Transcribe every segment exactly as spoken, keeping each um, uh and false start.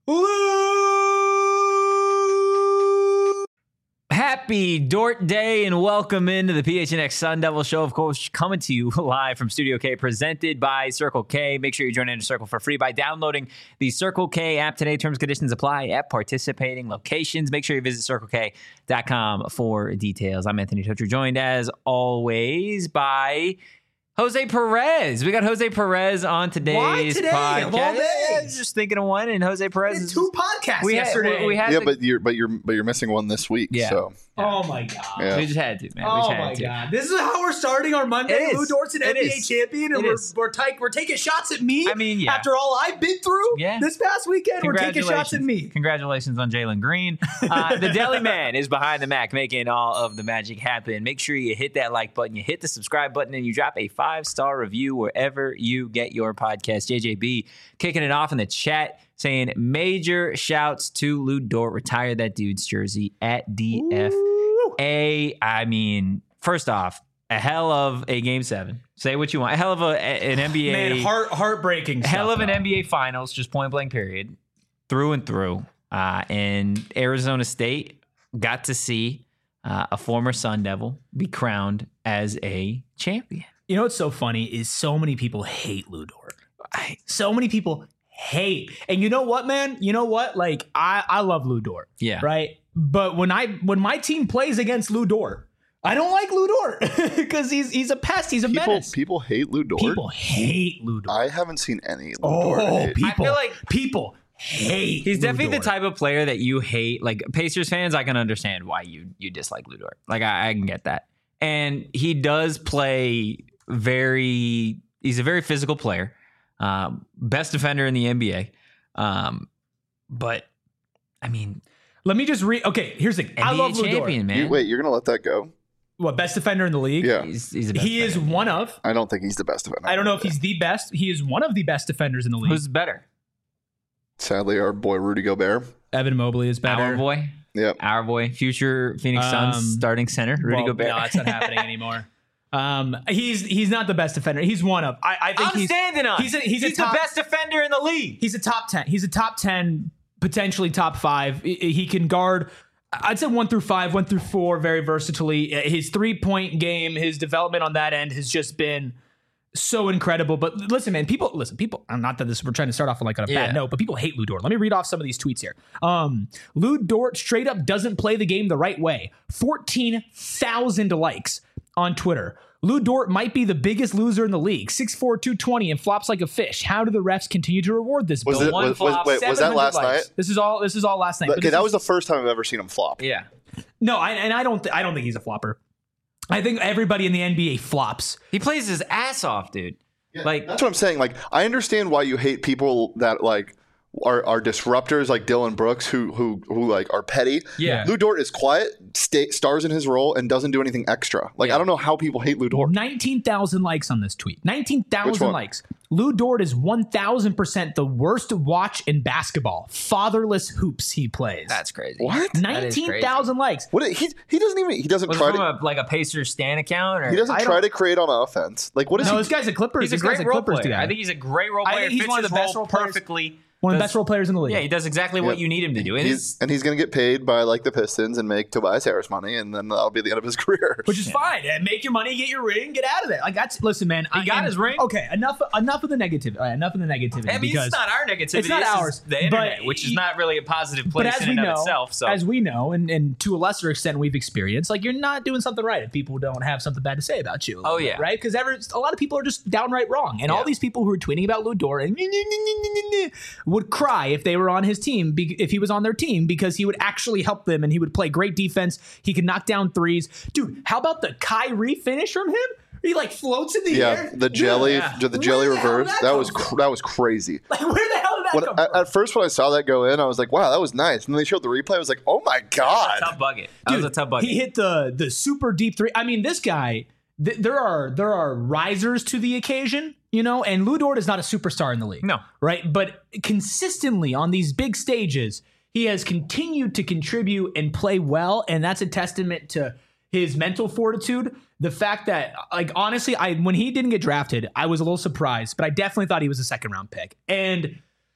Happy Dort Day and welcome into the P H N X Sun Devil Show. Of course, coming to you live from Studio K, presented by Circle K. Make sure you join in Circle for free by downloading the Circle K app today. Terms and conditions apply at participating locations. Make sure you visit circle k dot com for details. I'm Anthony Tocher, joined as always by Jose Perez. We got Jose Perez on today's Why today? podcast. Of all days? Yeah, just thinking of one, and Jose Perez We had is two podcasts we had- yesterday. we had Yeah, to- but you're but you're but you're missing one this week. Yeah. So oh my god. Yeah. We just had to, man. we Oh just had my to. god. This is how we're starting our Monday. It Lou is. Dort's an It N B A is. champion, and It we're is. we're, take, we're taking shots at me. I mean, yeah. After all I've been through Yeah. this past weekend, we're taking shots at me. Congratulations on Jalen Green. Uh, the Deli Man is behind the Mac, making all of the magic happen. Make sure you hit that like button, you hit the subscribe button, and you drop a five-star review wherever you get your podcast. J J B kicking it off in the chat, saying major shouts to Lou Dort. Retire that dude's jersey at D F A. I mean, first off, a hell of a game seven. Say what you want. A hell of a, an N B A. Man, heart heartbreaking. hell stuff, of an though. N B A Finals, just point blank period, through and through. Uh, and Arizona State got to see uh, a former Sun Devil be crowned as a champion. You know what's so funny is so many people hate Lou Dort. I, So many people hate. And you know what, man? You know what? Like I I love Lou Dort. yeah. Right? But when I when my team plays against Lou Dort, I don't like Lou Dort because he's he's a pest. He's a people menace. people hate Lou Dort. People hate Lou Dort. I haven't seen any Lou Dort oh, hate. people! I feel like- people hate. He's Lou definitely Dort. the type of player that you hate. Like Pacers fans, I can understand why you you dislike Lou Dort. Like I, I can get that. And he does play very. He's a very physical player. Um, best defender in the N B A. Um, but I mean, Let me just read. Okay, here's the. thing. I N B A love Lou Dort. champion, man. You- wait, you're gonna let that go? What, best defender in the league? Yeah, He's, he's the best He is defender. one of. I don't think he's the best defender. I don't know if he's the best. He is one of the best defenders in the league. Who's better? Sadly, our boy Rudy Gobert. Evan Mobley is better. Our boy, Yep. our boy, future Phoenix Suns Um, starting center, Rudy Well, Gobert. No, that's not happening anymore. Um, he's he's not the best defender. He's one of. I, I think I'm he's standing on. he's a- he's a the top- best defender in the league. he's a top ten. He's a top ten, potentially top five. He- He can guard. I'd say one through five, one through four, very versatilely. His three point game, his development on that end has just been so incredible. But listen, man, people listen. People. I'm not that this. We're trying to start off on like on a Yeah. bad note, but people hate Lou Dort. Let me read off some of these tweets here. Um, Lou Dort straight up doesn't play the game the right way. Fourteen thousand likes on Twitter. Lou Dort might be the biggest loser in the league. six four, two twenty and flops like a fish. How do the refs continue to reward this? Was Bill? it? one Was, was, flop, wait, was that seven hundred last likes. night? This is all. This is all last night. But Okay, this that is- was the first time I've ever seen him flop. Yeah. no, I, and I don't. Th- I don't think he's a flopper. I think everybody in the N B A flops. He plays his ass off, dude. Like That's what I'm saying. Like, I understand why you hate people that like are, are disruptors, like Dylan Brooks, who who who like are petty. Yeah. Lou Dort is quiet, stay, stars in his role, and doesn't do anything extra. Like, Yeah. I don't know how people hate Lou Dort. Nineteen thousand likes on this tweet. Nineteen Which thousand one? likes. Lou Dort is one thousand percent the worst to watch in basketball. Fatherless hoops he plays. that's crazy. What? That is Nineteen thousand likes. What? He he doesn't even he doesn't Was it try from to a, like a Pacers Stan account? Or? he doesn't I try don't- to create on offense. Like, what is No, he? this guy's a Clippers. He's a this great guy's role Clippers player. guy. I think he's a great role I player. think he's Fits one of his the best role players- perfectly. one of the Does- best role players in the league. Yeah, he does exactly what Yep. you need him to do. And He's, his- and he's going to get paid by like the Pistons and make Tobias Harris money, and then that'll be the end of his career. Which is fine. And make your money, get your ring, get out of there. Like that's listen, man. He I, got and- his ring? Okay, enough. Enough of the negative. Uh, enough of the negativity. I mean, because it's not our negativity. It's not this is ours, the internet, but- which is not really a positive but place as in we and know, of itself. So as we know, and, and to a lesser extent, we've experienced, like you're not doing something right if people don't have something bad to say about you. a little Oh, bit, yeah. right? Because a lot of people are just downright wrong, and all Yeah. these people who are tweeting about Lou Dort and would cry if they were on his team, be- if he was on their team, because he would actually help them and he would play great defense. He could knock down threes, dude. How about the Kyrie finish from him? He like floats in the yeah, air. the jelly, Yeah. the Where jelly the hell did reverse. that That come was from? cr- that was crazy. Like, where the hell did that When, come at, from? at first, when I saw that go in, I was like, "Wow, that was nice." And then they showed the replay. I was like, "Oh my god!" tough bucket. That Dude, was a tough bucket. He hit the the super deep three. I mean, this guy. Th- there are there are risers to the occasion, you know. And Lou Dort is not a superstar in the league, No. right? But consistently on these big stages, he has continued to contribute and play well, and that's a testament to his mental fortitude. The fact that, like, honestly, I when he didn't get drafted, I was a little surprised, but I definitely thought he was a second round pick. And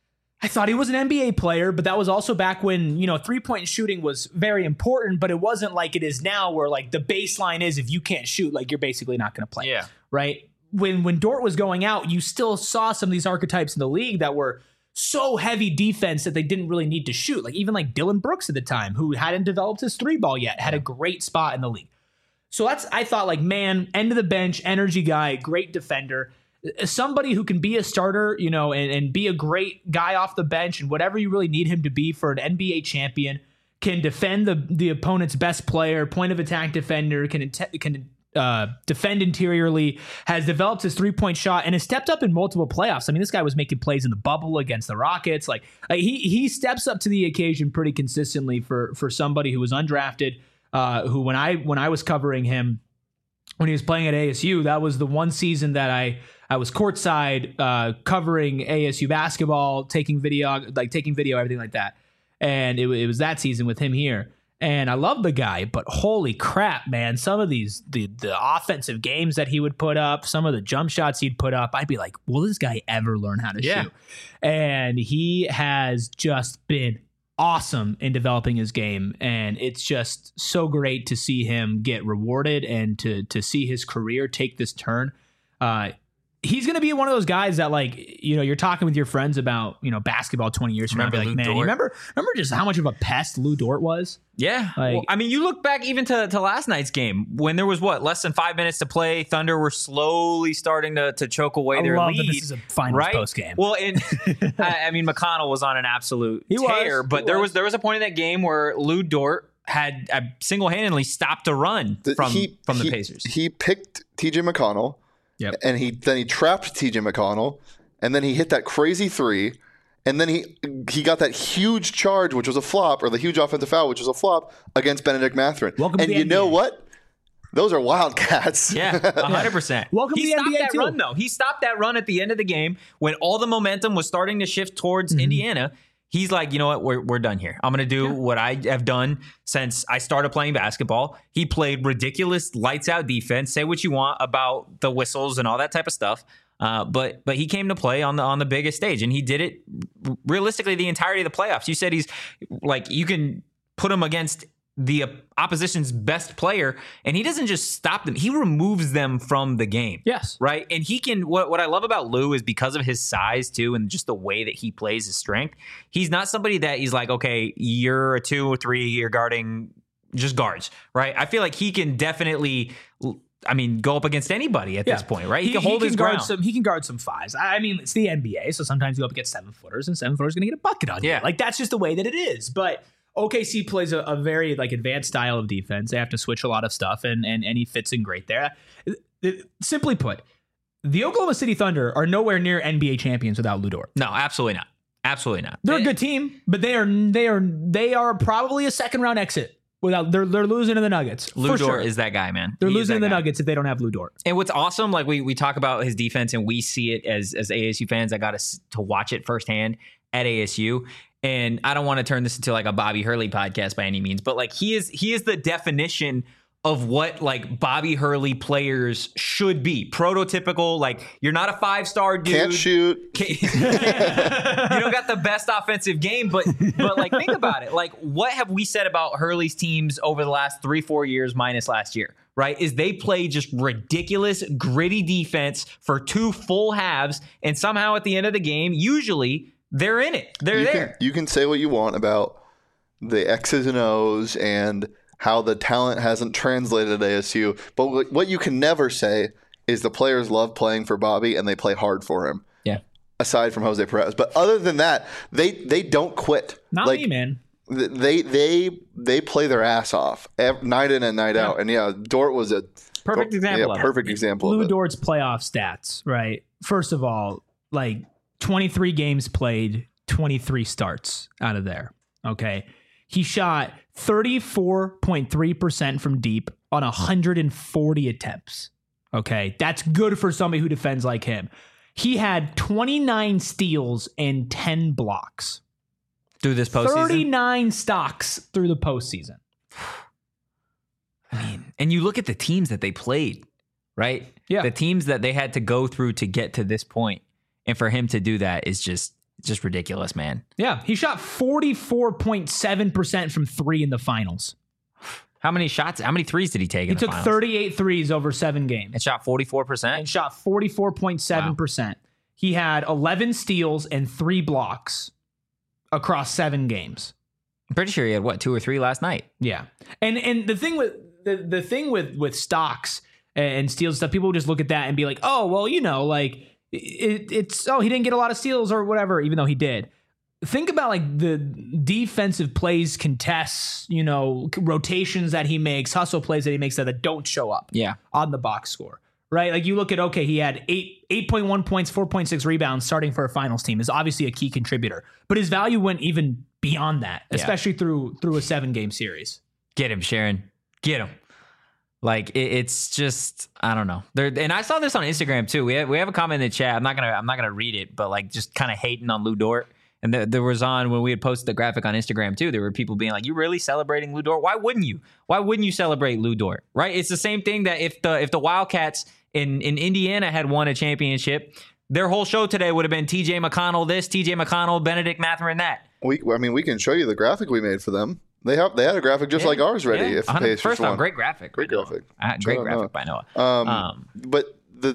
I thought he was an N B A player, but that was also back when, you know, three-point shooting was very important, but it wasn't like it is now where like the baseline is if you can't shoot, like you're basically not going to play. Yeah. Right? When when Dort was going out, you still saw some of these archetypes in the league that were so heavy defense that they didn't really need to shoot. Like even like Dylan Brooks at the time, who hadn't developed his three ball yet, had a great spot in the league. So that's, I thought like, man, end of the bench, energy guy, great defender. Somebody who can be a starter, you know, and, and be a great guy off the bench and whatever you really need him to be for an N B A champion, can defend the the opponent's best player, point of attack defender, can can uh, defend interiorly, has developed his three-point shot, and has stepped up in multiple playoffs. I mean, this guy was making plays in the bubble against the Rockets. Like, like he he steps up to the occasion pretty consistently for for somebody who was undrafted, uh, who when I when I was covering him when he was playing at A S U, that was the one season that I I was courtside uh, covering A S U basketball, taking video, like taking video, everything like that. And it, it was that season with him here. And I love the guy, but holy crap, man. Some of these, the, the offensive games that he would put up, some of the jump shots he'd put up, I'd be like, will this guy ever learn how to Yeah. shoot? And he has just been awesome in developing his game. And it's just so great to see him get rewarded and to, to see his career take this turn. Uh, He's going to be one of those guys that, like, you know, you're talking with your friends about, you know, basketball twenty years from now. Remember Be Lou like, man, Dort? you remember, remember just how much of a pest Lou Dort was? Yeah. Like- well, I mean, you look back even to, to last night's game when there was what, less than five minutes to play. Thunder were slowly starting to, to choke away I their love lead. that this is a finals right? post game. Well, and I, I mean, McConnell was on an absolute He was. tear, but He there was. was there was a point in that game where Lou Dort had uh, single-handedly stopped a run The- from he- from the he- Pacers. He picked T J McConnell, Yep. and he then he trapped T J McConnell, and then he hit that crazy three, and then he he got that huge charge, which was a flop, or the huge offensive foul, which was a flop against Benedict Mathurin. Welcome to and the you N B A. know what? Those are Wildcats. Yeah, one hundred percent. Welcome he to the stopped N B A that too. run, though. He stopped that run at the end of the game when all the momentum was starting to shift towards Indiana. He's like, you know what? We're, we're done here. I'm going to do what I have done since I started playing basketball. He played ridiculous lights out defense. Say what you want about the whistles and all that type of stuff. Uh, but but he came to play on the on the biggest stage, and he did it realistically the entirety of the playoffs. You said he's like, you can put him against the opposition's best player, and he doesn't just stop them. He removes them from the game. Yes. Right. And he can, what, what I love about Lou is because of his size too, and just the way that he plays his strength, he's not somebody that he's like, okay, you're a two or three, you're guarding just guards. Right. I feel like he can definitely, I mean, go up against anybody at Yeah. this point, right? He, can hold his guard ground. some. He can guard some fives. I I mean, it's the N B A, so sometimes you go up against seven footers, and seven footers going to get a bucket on Yeah. you. Like that's just the way that it is. But O K C plays a, a very like advanced style of defense. They have to switch a lot of stuff, and and and he fits in great there. It- it- simply put, the Oklahoma City Thunder are nowhere near N B A champions without Lou Dort. No, absolutely not. Absolutely not. They're a good team, but they are they are they are probably a second round exit without. They're they're losing to the Nuggets. Lou for Dort sure. is that guy, man. They're He is losing to that the guy. Nuggets if they don't have Lou Dort. And what's awesome, like we we talk about his defense and we see it as as A S U fans. I got to to watch it firsthand at A S U. And I don't want to turn this into like a Bobby Hurley podcast by any means, but like he is he is the definition of what like Bobby Hurley players should be. Prototypical, like you're not a five-star dude. Can't shoot. Can't- you don't got the best offensive game, but but like think about it. Like what have we said about Hurley's teams over the last three, four years minus last year? Right? Is they play just ridiculous, gritty defense for two full halves, and somehow at the end of the game, usually they're in it. They're you there. Can, you can say what you want about the X's and O's and how the talent hasn't translated at A S U, but what what you can never say is the players love playing for Bobby and they play hard for him. Yeah. Aside from Jose Perez, but other than that, they they don't quit. Not like, me, man. th- They they they play their ass off ev- night in and night out, and yeah, Dort was a Perfect example Yeah, of it. perfect example Lou of it. Dort's playoff stats, right? First of all, like twenty-three games played, twenty-three starts out of there. Okay. He shot thirty-four point three percent from deep on one hundred forty attempts. Okay. That's good for somebody who defends like him. He had twenty-nine steals and ten blocks. Through this postseason. thirty-nine stocks through the postseason. I mean, and you look at the teams that they played, right? Yeah. The teams that they had to go through to get to this point. And for him to do that is just Just ridiculous, man. Yeah, he shot forty-four point seven percent from three in the finals. How many shots, how many threes did he take He in the took finals? thirty-eight threes over seven games. And shot forty-four And percent? shot forty-four point seven percent. Wow. He had eleven steals and three blocks across seven games. I'm pretty sure he had, what, two or three last night? Yeah. And and the thing with the, the thing with, with stocks and steals stuff, people just look at that and be like, oh, well, you know, like it, it's, oh, he didn't get a lot of steals or whatever, even though he did. Think about like the defensive plays, contests, you know, rotations that he makes, hustle plays that he makes that, that don't show up Yeah. on the box score, right? Like you look at, okay, he had eight, eight point one points, four point six rebounds starting for a finals team is obviously a key contributor, but his value went even beyond that, Yeah. especially through, through a seven game series. Get him, Sharon. Get him. Like it, it's just, I don't know. There, and I saw this on Instagram too. We have, we have a comment in the chat. I'm not gonna I'm not gonna read it, but like just kind of hating on Lu Dort. And there, there was on when we had posted the graphic on Instagram too. There were people being like, "You really celebrating Lu Dort? Why wouldn't you? Why wouldn't you celebrate Lu Dort? Right? It's the same thing that if the if the Wildcats in in Indiana had won a championship, their whole show today would have been T J McConnell this, T J McConnell, Benedict Mathurin that. We, I mean, we can show you the graphic we made for them. They have they had a graphic just Yeah, like ours ready. yeah. If the one hundred Pacers First won. off, great graphic, Great by Noah. graphic. Uh, great Shout out graphic by Noah. Um, Um, but the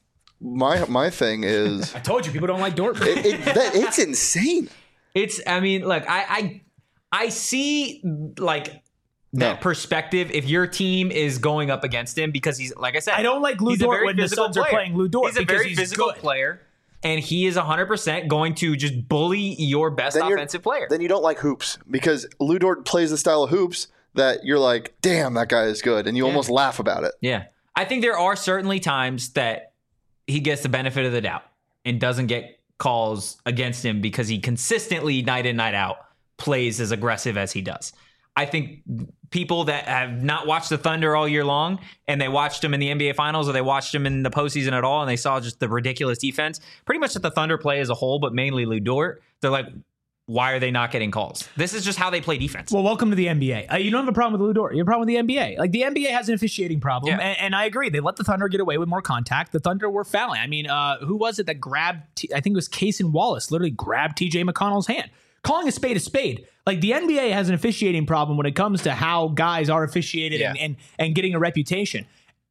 my my thing is, I told you people don't like Dort. it, it, that, it's insane. It's, I mean, look, I, I, I see like that No. perspective if your team is going up against him because he's, like I said, I don't like Lu he's a Dort very when the physical Suns are player. playing Lu Dort He's a because very he's physical good. player, and he is one hundred percent going to just bully your best Then you're- offensive player. Then you don't like hoops because Lu Dort plays the style of hoops that you're like, damn, that guy is good, and you almost laugh about it. Yeah. I think there are certainly times that he gets the benefit of the doubt and doesn't get calls against him because he consistently, night in, night out, plays as aggressive as he does. I think people that have not watched the Thunder all year long and they watched him in the N B A Finals or they watched him in the postseason at all and they saw just the ridiculous defense, pretty much that the Thunder play as a whole, but mainly Lu Dort, they're like, why are they not getting calls? This is just how they play defense. Well, welcome to the N B A. Uh, you don't have a problem with Lu Dort. You have a problem with the N B A. Like the N B A has an officiating problem, Yeah. and, and I agree. They let the Thunder get away with more contact. The Thunder were fouling. I mean, uh, who was it that grabbed? T- I think it was Cason Wallace. Literally grabbed T J McConnell's hand, calling a spade a spade. Like the N B A has an officiating problem when it comes to how guys are officiated Yeah. and, and and getting a reputation.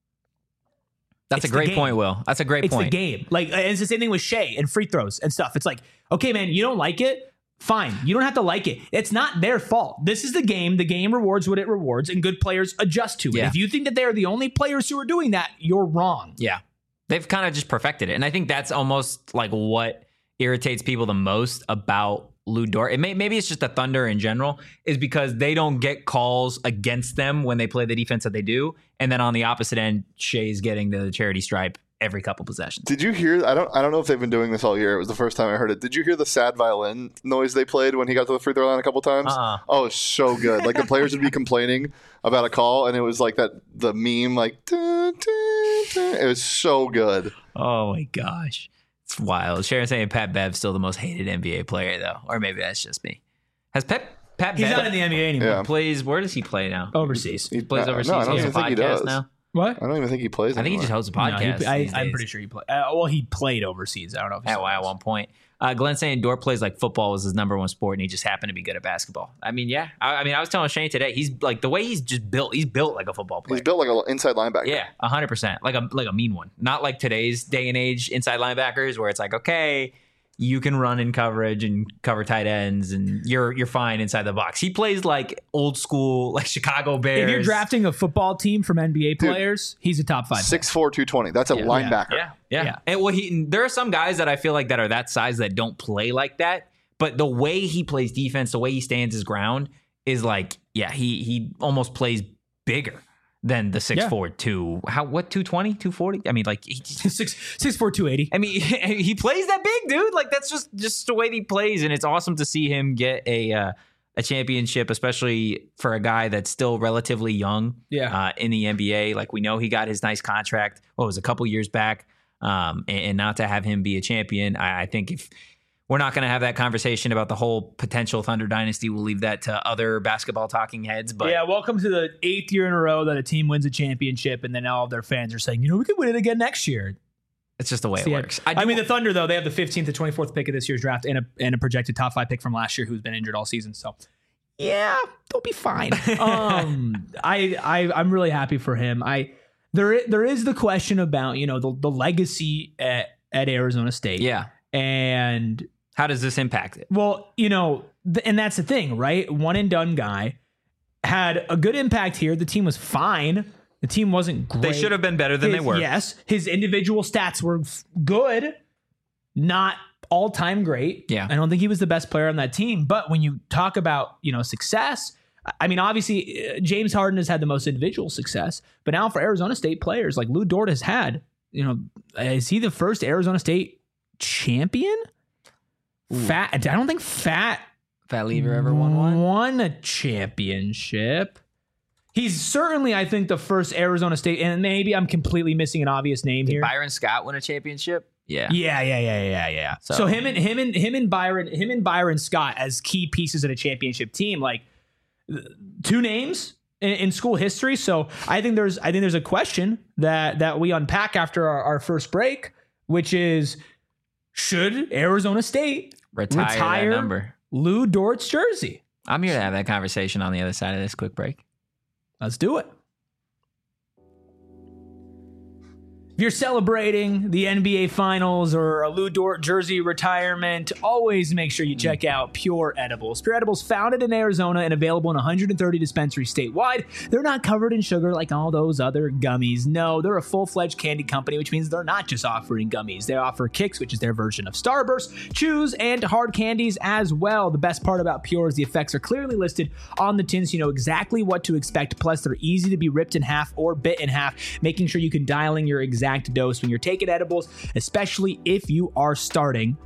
That's It's a the great game. point, Will. That's a great It's point. the game. Like uh, it's the same thing with Shea and free throws and stuff. It's like, okay, man, you don't like it. Fine. You don't have to like it. It's not their fault. This is the game. The game rewards what it rewards, and good players adjust to it. Yeah. If you think that they are the only players who are doing that, you're wrong. Yeah. They've kind of just perfected it. And I think that's almost like what irritates people the most about Lu Dort. It may, maybe it's just the Thunder in general, is because they don't get calls against them when they play the defense that they do. And then on the opposite end, Shea's getting the charity stripe every couple possessions. Did you hear? I don't. I don't know if they've been doing this all year. It was the first time I heard it. Did you hear the sad violin noise they played when he got to the free throw line a couple times? Uh-uh. Oh, it's so good. Like the players would be complaining about a call, and it was like that the meme, like dun, dun, dun. It was so good. Oh my gosh. It's wild. Sharon saying Pat Bev's still the most hated N B A player, though. Or maybe that's just me. Has Pat, Pat He's Bev not in the N B A anymore. Yeah. plays, where does he play now? Overseas. He Plays no, overseas. No, I don't he has even a think he podcast does. now. What? I don't even think he plays. I think he just anymore. hosts a podcast. No, he, I, these I'm days. pretty sure he played. Uh, well, he played overseas. I don't know if he's At, still at one point. Uh, Glenn saying Dort plays like football was his number one sport, and he just happened to be good at basketball. I mean, yeah. I, I mean, I was telling Shane today, he's like the way he's just built. He's built like a football player. He's built like an inside linebacker. Yeah, a hundred percent, like a like a mean one. Not like today's day and age inside linebackers, where it's like, okay, you can run in coverage and cover tight ends, and you're you're fine inside the box. He plays like old school, like Chicago Bears. If you're drafting a football team from N B A players, he's a top five. six four, two twenty. That's a Yeah. linebacker. Yeah, yeah. Yeah. And well, he there are some guys that I feel like that are that size that don't play like that. But the way he plays defense, the way he stands his ground is like, yeah, he he almost plays bigger than the six Yeah. four two. How what two twenty, two forty? I mean, like he, six six four two eighty. I mean, he plays that big, dude. Like that's just just the way he plays, and it's awesome to see him get a uh, a championship, especially for a guy that's still relatively young. Yeah. Uh, in the N B A, like we know he got his nice contract. What was it, a couple years back, um, and, and not to have him be a champion, I, I think if we're not going to have that conversation about the whole potential Thunder dynasty, we'll leave that to other basketball talking heads. But Yeah, welcome to the eighth year in a row that a team wins a championship, and then all of their fans are saying, you know, we could win it again next year. It's just the way it Yeah. works. I, do- mean, the Thunder, though, they have the fifteenth to twenty-fourth pick of this year's draft and a, and a projected top five pick from last year who's been injured all season. So, yeah, they'll be fine. um, I, I, I'm really happy for him. I there, there is the question about, you know, the, the legacy at, at Arizona State. yeah. And, How does this impact it? well, you know, th- and that's the thing, right? One and done guy had a good impact here. The team was fine. The team wasn't great. They should have been better than His- they were. Yes, his individual stats were f- good, not all time great. Yeah. I don't think he was the best player on that team. But when you talk about, you know, success, I mean, obviously uh, James Harden has had the most individual success. But now for Arizona State players, like Lou Dort has had, you know, is he the first Arizona State champion? Fat. I don't think Fat Fat Lever ever won one? won a championship. He's certainly, I think, the first Arizona State, and maybe I'm completely missing an obvious name here. Byron Scott win a championship? Yeah. Yeah, yeah, yeah, yeah, yeah. So, So- him and him and him and Byron, him and Byron Scott as key pieces of a championship team, like two names in, in school history. So I think there's, I think there's a question that that we unpack after our, our first break, which is, should Arizona State Retire, retire that number. Lou Dort's jersey? I'm here to have that conversation on the other side of this quick break. Let's do it. If you're celebrating the N B A Finals or a Lou Dort jersey retirement, always make sure you check out Pure Edibles. Pure Edibles, founded in Arizona and available in one hundred thirty dispensaries statewide. They're not covered in sugar like all those other gummies. No, they're a full-fledged candy company, which means they're not just offering gummies. They offer Kicks, which is their version of Starburst, chews, and hard candies as well. The best part about Pure is the effects are clearly listed on the tin, so you know exactly what to expect. Plus, they're easy to be ripped in half or bit in half, making sure you can dial in your exact dose when you're taking edibles, especially if you are starting.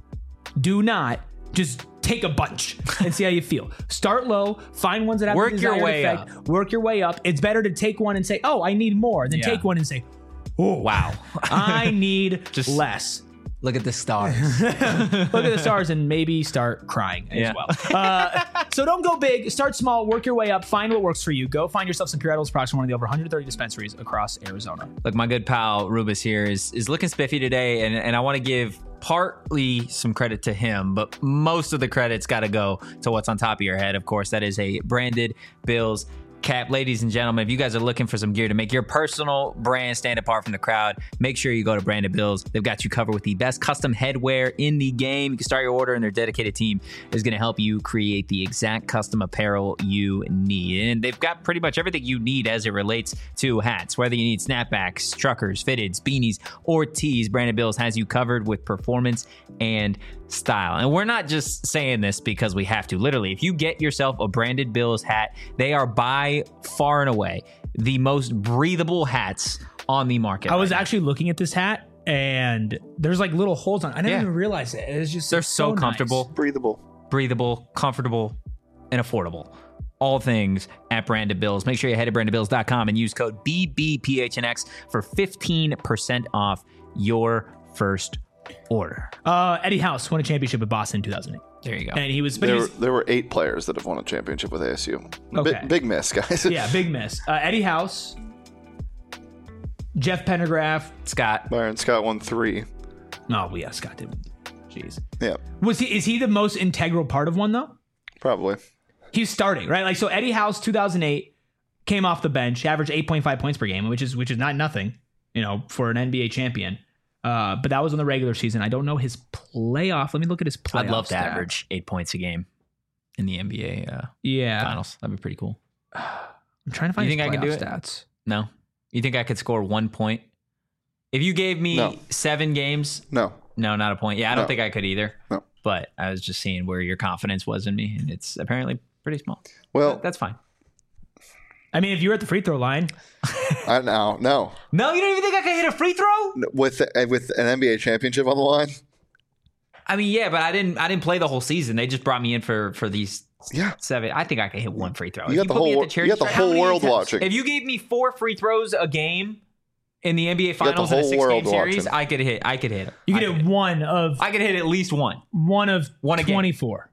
Do not just take a bunch and see how you feel. Start low, find ones that have Work the your desired way effect, up. work your way up. It's better to take one and say, oh, I need more, than Yeah. take one and say, oh, Wow. I need Just- less. Look at the stars. Look at the stars and maybe start crying as Yeah. well. Uh, so don't go big. Start small. Work your way up. Find what works for you. Go find yourself some Pure Edibles products from one of the over one hundred thirty dispensaries across Arizona. Look, my good pal Rubus here is is looking spiffy today, and, and I want to give partly some credit to him, but most of the credit's got to go to what's on top of your head. Of course, that is a branded Bills cap. Ladies and gentlemen, if you guys are looking for some gear to make your personal brand stand apart from the crowd, make sure you go to Branded Bills. They've got you covered with the best custom headwear in the game. You can start your order, and their dedicated team is going to help you create the exact custom apparel you need. And they've got pretty much everything you need as it relates to hats. Whether you need snapbacks, truckers, fitteds, beanies, or tees, Branded Bills has you covered with performance and style. And we're not just saying this because we have to. Literally, if you get yourself a Branded Bills hat, they are by far and away the most breathable hats on the market. I was right now. actually looking at this hat, and there's like little holes on it. I didn't Yeah. even realize it. It's just They're it's so, nice. comfortable, Breathable. breathable, comfortable, and affordable. All things at Branded Bills. Make sure you head to branded bills dot com and use code B B P H N X for fifteen percent off your first order. Uh, Eddie House won a championship with Boston in two thousand eight, There you go. and he was, but he There, was, there were eight players that have won a championship with A S U. Bi- Okay. big miss, guys. yeah, big miss. Uh, Eddie House, Jeff Pendergraph. Scott. Byron Scott won three. No, oh, yeah, Scott did. Jeez, Yeah, was he? Is he the most integral part of one though? probably. He's starting, right? Like, so Eddie House, two thousand eight, came off the bench, averaged eight point five points per game, which is which is not nothing, you know, for an N B A champion. Uh, but that was in the regular season. I don't know his playoff. Let me look at his playoff. I'd love to stats. average eight points a game in the N B A uh, Yeah, finals. That'd be pretty cool. I'm trying to find. You his think I could playoff do it? Stats. No? You think I could score one point? If you gave me No. seven games, No. no, not a point. Yeah, I don't No. think I could either. No. But I was just seeing where your confidence was in me, and it's apparently pretty small. Well, But that's fine. I mean, if you were at the free throw line, I no, no. No, you don't even think I could hit a free throw? With with an N B A championship on the line. I mean, yeah, but I didn't. I didn't play the whole season. They just brought me in for for these Yeah. seven. I think I could hit one free throw. You If got the put me whole at wor- charity you got the stripe- how whole many world times- watching. If you gave me four free throws a game in the N B A got the Finals in a whole six game world series, watching. I could hit. I could hit. you I could could hit one of I could hit at least one. one of One a game. twenty-four.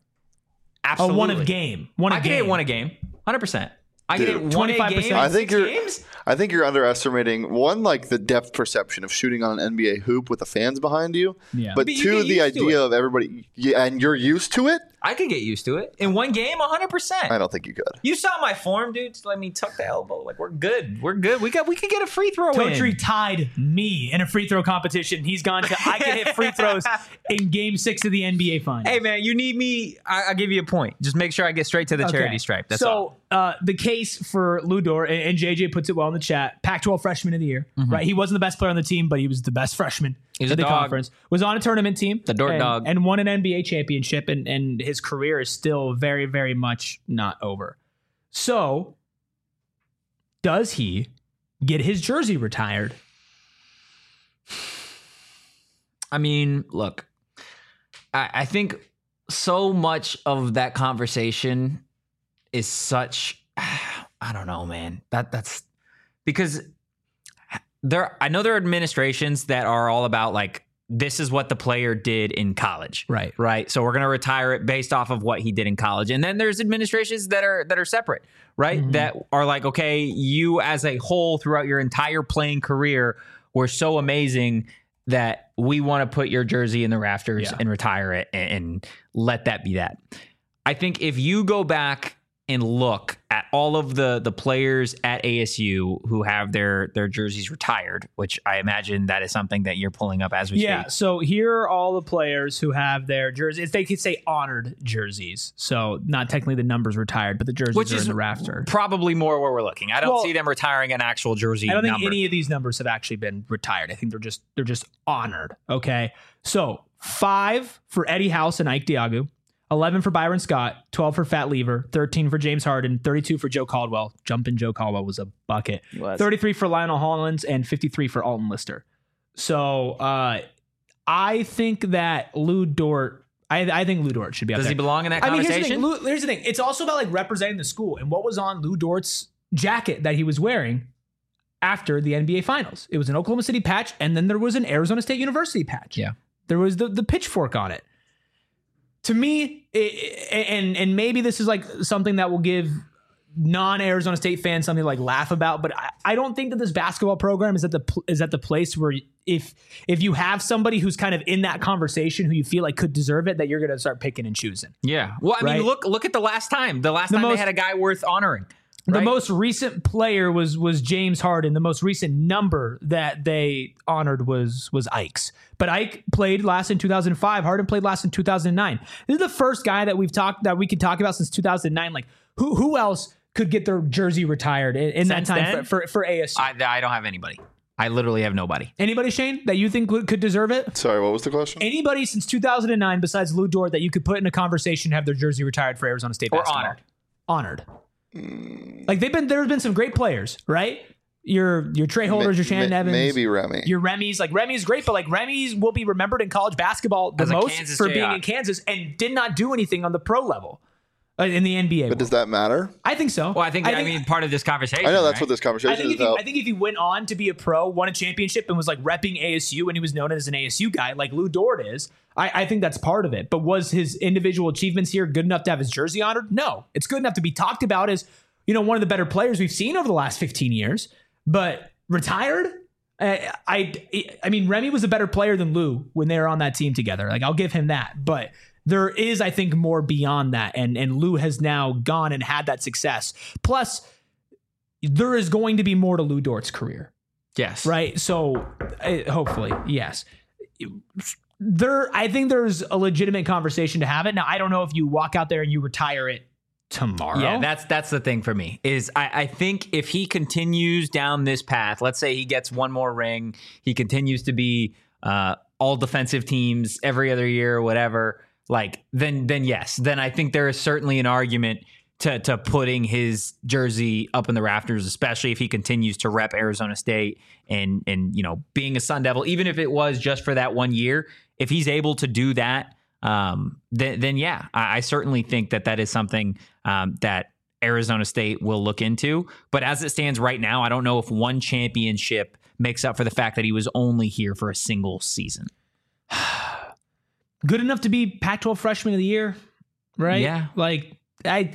Absolutely. Oh, one of game. One of I could game. hit one a game. one hundred percent. I could Dude, hit one a game. twenty-five percent. in I think six you're. games. I think you're underestimating one, like the depth perception of shooting on an N B A hoop with the fans behind you. Yeah. But But you two, get the used to idea it. of everybody, yeah, and you're used to it. I could get used to it in one game, one hundred percent. I don't think you could. You saw my form, dude. Just let me tuck the elbow. Like we're good. We're good. We got. We can get a free throw Totri in. tied me in a free throw competition. He's gone to I can hit free throws in Game Six of the N B A Finals. Hey man, you need me. I, I'll give you a point. Just make sure I get straight to the charity Okay. stripe. That's so, all. uh, the case for Lou Dort, and, and J J puts it well in the chat, Pac twelve Freshman of the Year, right? He wasn't the best player on the team, but he was the best freshman He's in a the dog. conference. Was on a tournament team. The Dort and, dog. And won an N B A championship, and, and his career is still very, very much not over. So, does he get his jersey retired? I mean, look, I, I think so much of that conversation is such. I don't know, man. That that's because there. I know there are administrations that are all about like this is what the player did in college, Right. Right. So we're gonna retire it based off of what he did in college, and then there's administrations that are that are separate, right? Mhm. That are like, okay, you as a whole throughout your entire playing career were so amazing that we want to put your jersey in the rafters Yeah. and retire it and, and let that be that. I think if you go back and look at all of the the players at A S U who have their their jerseys retired, which I imagine that is something that you're pulling up as we Yeah, speak. so here are all the players who have their jerseys. They could say honored jerseys. So not technically the numbers retired, but the jerseys Which are is in the rafter. probably more where we're looking. I don't Well, see them retiring an actual jersey I don't think number. any of these numbers have actually been retired. I think they're just they're just honored. Okay. So five for Eddie House and Ike Diagu, eleven for Byron Scott, twelve for Fat Lever, thirteen for James Harden, thirty-two for Joe Caldwell. Jumping Joe Caldwell was a bucket. was. thirty-three for Lionel Hollins and fifty-three for Alton Lister. So uh, I think that Lou Dort, I, I think Lou Dort should be up Does there. he belong in that I mean, here's the, conversation? thing. Lou, here's the thing. It's also about like representing the school and what was on Lou Dort's jacket that he was wearing after the N B A Finals. It was an Oklahoma City patch, and then there was an Arizona State University patch. Yeah. There was the, the pitchfork on it. To me, it, and and maybe this is like something that will give non-Arizona State fans something to like laugh about, but I, I don't think that this basketball program is at the pl- is at the place where if if you have somebody who's kind of in that conversation who you feel like could deserve it, that you're going to start picking and choosing. Yeah. Well, I mean, Right? look look at the last time. The last The time most- they had a guy worth honoring. The right? most recent player was was James Harden. The most recent number that they honored was was Ike's. But Ike played last in two thousand five. Harden played last in two thousand nine. This is the first guy that we've talked that we could talk about since two thousand nine. Like who who else could get their jersey retired in, in that Since time then? for, for for A S U? I, I don't have anybody. I literally have nobody. Anybody, Shane, that you think would, could deserve it? Sorry, what was the question? Anybody since two thousand nine besides Lou Dort that you could put in a conversation to have their jersey retired for Arizona State Or basketball? honored. Honored. Like they've been, there's been some great players, right? Your your Trey Holders, your Shannon Ma- Evans, maybe Remy. your Remy's. Like Remy's great, but like Remy's will be remembered in college basketball the As a most Kansas for Jayhawk. being in Kansas and did not do anything on the pro level uh, in the N B A. But does that matter? I think so. Well, I think, I, mean, part of this conversation. I know that's right? what this I conversation think, is if he, about. I think if he went on to be a pro, won a championship, and was like repping A S U, and he was known as an A S U guy, like Lou Dort is, I, I think that's part of it. But was his individual achievements here good enough to have his jersey honored? No. It's good enough to be talked about as, you know, one of the better players we've seen over the last fifteen years. But retired? I, I, I mean, Remy was a better player than Lou when they were on that team together. Like, I'll give him that. But there is, I think, more beyond that. And, and Lou has now gone and had that success. Plus, there is going to be more to Lou Dort's career, Yes. right? So uh, hopefully, yes. There, I think there's a legitimate conversation to have it. Now, I don't know if you walk out there and you retire it tomorrow. Yeah, that's that's the thing for me is I, I think if he continues down this path, let's say he gets one more ring, he continues to be uh, all defensive teams every other year or whatever, like then then yes, then I think there is certainly an argument to to putting his jersey up in the rafters, especially if he continues to rep Arizona State and and you know being a Sun Devil, even if it was just for that one year, if he's able to do that. Um, then, then yeah, I, I certainly think that that is something um, that Arizona State will look into. But as it stands right now, I don't know if one championship makes up for the fact that he was only here for a single season. Good enough to be Pac twelve Freshman of the Year, right? Yeah. Like I,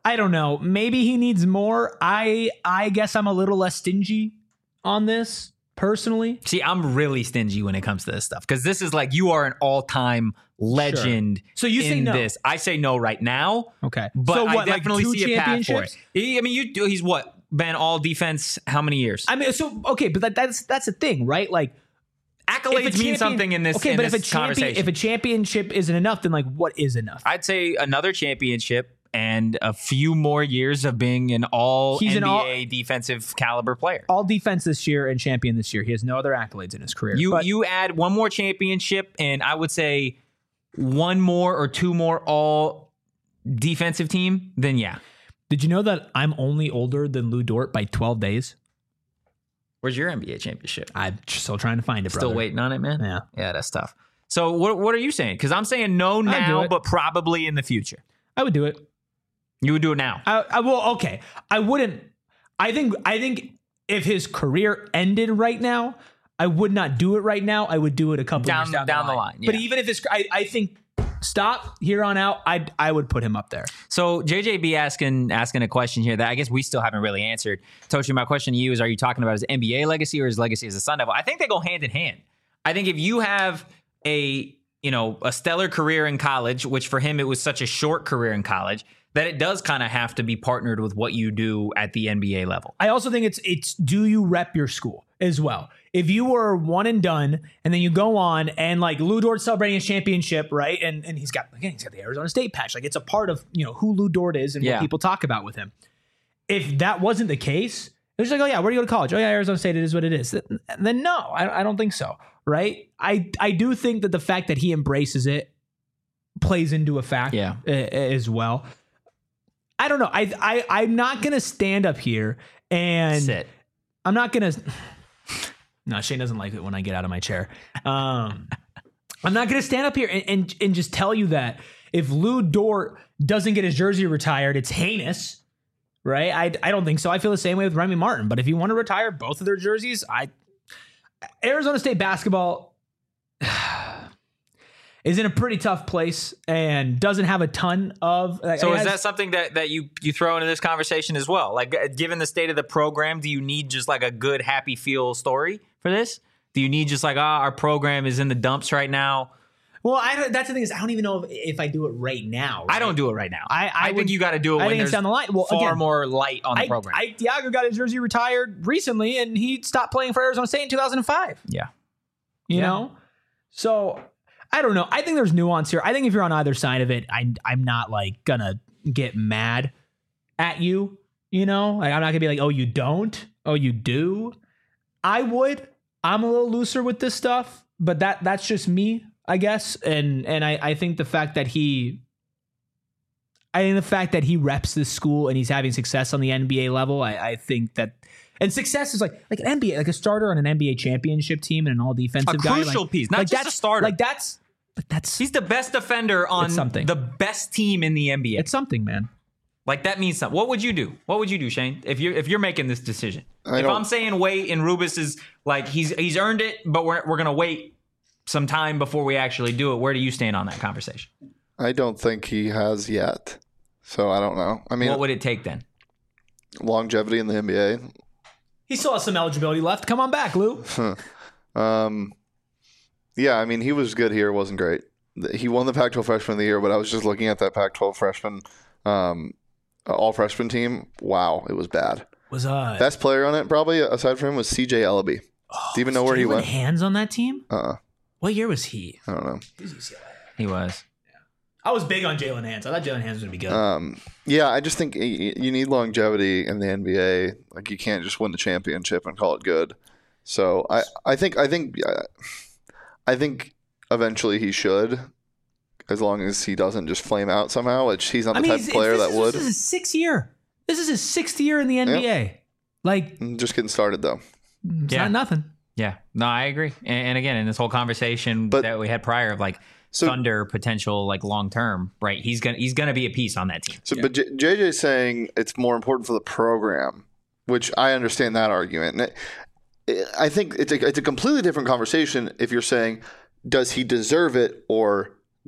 I don't know. Maybe he needs more. I I guess I'm a little less stingy on this personally. See, I'm really stingy when it comes to this stuff because this is like you are an all-time legend. So you say in no. this. I say no right now. Okay, But so I what, definitely like two see a path for it. championships? He, I mean, you do. He's what been all defense. How many years? I mean, so okay, but that, that's that's the thing, right? Like Accolades if a mean champion- something in this. Okay, in but if a this champion, conversation. if a championship isn't enough, then like what is enough? I'd say another championship and a few more years of being an all He's N B A an all- defensive caliber player. All defense this year and champion this year. He has no other accolades in his career. You But- you add one more championship, and I would say one more or two more all defensive team. Then yeah, Did you know that I'm only older than Lou Dort by twelve days? where's your N B A championship? I'm still trying to find it, brother. Still waiting on it, man. Yeah. yeah, that's tough. So what what are you saying? Because I'm saying no do now, it. but probably in the future. I would do it. You would do it now. I, I will. Okay, I wouldn't. I think. I think if his career ended right now, I would not do it right now. I would do it a couple Down- years down, down the the line. line, But yeah. even if his, I, I think stop here on out. I I would put him up there. So J J B asking asking a question here that I guess we still haven't really answered. Tochi, my question to you is: are you talking about his N B A legacy or his legacy as a Sun Devil? I think they go hand in hand. I think if you have a you know a stellar career in college, which for him it was such a short career in college, that it does kind of have to be partnered with what you do at the N B A level. I also think it's it's do you rep your school as well? If you were one and done, and then you go on and like Lou Dort celebrating his championship, right? And and he's got again he's got the Arizona State patch. Like it's a part of you know who Lou Dort is and Yeah. what people talk about with him. If that wasn't the case, it was like, oh yeah, where do you go to college? Oh yeah, Arizona State. It is what it is. Then, then no, I, I don't think so. Right? I I do think that the fact that he embraces it plays into a fact Yeah. a- as well. I don't know. I I I'm not gonna stand up here and Sit. I'm not gonna. No, Shane doesn't like it when I get out of my chair. Um, I'm not gonna stand up here and, and and just tell you that if Lou Dort doesn't get his jersey retired, it's heinous, right? I I don't think so. I feel the same way with Remy Martin. But if you want to retire both of their jerseys, I Arizona State basketball is in a pretty tough place and doesn't have a ton of. Like, So it is has- that something that, that you you throw into this conversation as well? Like, uh, given the state of the program, do you need just like a good, happy feel story for this? Do you need just like, ah, our program is in the dumps right now? Well, I don't, that's the thing is I don't even know if, if I do it right now. I right? don't do it right now. I- I think would- you got to do it I when think it's there's down the line. Well, far again, more light on the I, program. I, Diago got his jersey retired recently, and he stopped playing for Arizona State in two thousand five. yeah. You Yeah. know, so I don't know. I think there's nuance here. I think if you're on either side of it, I, I'm not like gonna get mad at you. You know, like, I'm not gonna be like, oh, you don't, oh, you do. I would. I'm a little looser with this stuff, but that that's just me, I guess. And and I, I think the fact that he. I think the fact that he reps this school and he's having success on the N B A level, I, I think that, and success is like like an N B A, like a starter on an N B A championship team and an all defensive A guy, crucial like- piece, not like just a that's- starter. Like that's, but that's He's the best defender on It's something. the best team in the N B A. it's something, man. Like that means something. What would you do? What would you do, Shane? If you're if you're making this decision, I if don't- I'm saying wait and Rubus is like he's he's earned it, but we're we're gonna wait some time before we actually do it. Where do you stand on that conversation? I don't think he has yet. So I don't know. I mean, What would it take then? longevity in the N B A. He still has some eligibility left. Come on back, Lou. Um, yeah, I mean, he was good here. Wasn't great. He won the Pac twelve Freshman of the Year, but I was just looking at that Pac twelve freshman, um, all freshman team. Wow, it was bad. Was uh Best player on it, probably aside from him, was C J Ellaby. Do you even know where he Jalen went? Hands on that team? Uh, What year was he? I don't know. He was. I was big on Jalen Hands. I thought Jalen Hands was gonna be good. Um, yeah, I just think y- you need longevity in the N B A. Like you can't just win the championship and call it good. So I, I think I think uh, I think eventually he should, as long as he doesn't just flame out somehow. Which he's not the I mean, type it's- of player this that is, would. This is his sixth year. This is his sixth year in the N B A. Like, Just getting started though. it's Yeah. not nothing. Yeah. No, I agree. And, and again, in this whole conversation But- that we had prior of like So- Thunder potential, like long term, right? He's gonna he's gonna be a piece on that team. So, but J- JJ's saying it's more important for the program, which I understand that argument. And it, I think it's a, it's a completely different conversation if you're saying, does he deserve it or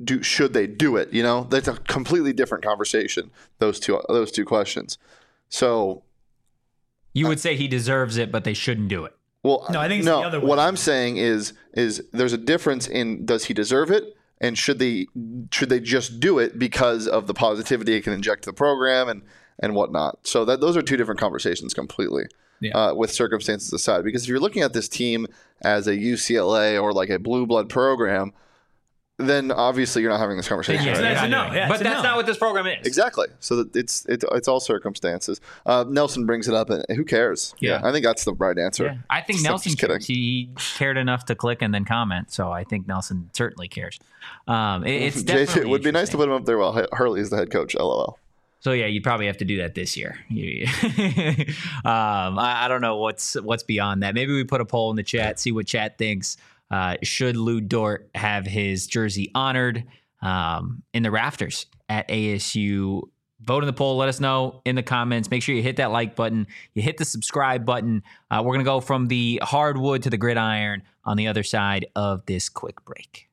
do should they do it? You know, that's a completely different conversation. Those two those two questions. So you would say he deserves it, but they shouldn't do it. Well, No, I think it's no. the other way. What I'm saying is is there's a difference in does he deserve it, and should they should they just do it because of the positivity it can inject to the program and and whatnot. So that those are two different conversations completely. Yeah. Uh, with circumstances aside, because if you're looking at this team as a U C L A or like a blue blood program, then obviously you're not having this conversation. Yeah, right? that's you're a not no. doing it. Yeah, but it's a that's no. not what this program is. Exactly. So that it's it, it's all circumstances. Uh, Nelson brings it up, and who cares? Yeah. I think that's the right answer. Yeah. I think Just- Nelson just kidding. cares. He cared enough to click and then comment, so I think Nelson certainly cares. Um, it, it's J J, definitely it would be nice to interesting. put him up there while Hurley is the head coach. LOL. So yeah, you'd probably have to do that this year. You- um, I, I don't know what's what's beyond that. Maybe we put a poll in the chat, see what chat thinks. Uh, should Lou Dort have his jersey honored um, in the rafters at A S U? Vote in the poll. Let us know in the comments. Make sure you hit that like button. You hit the subscribe button. Uh, we're gonna go from the hardwood to the gridiron on the other side of this quick break.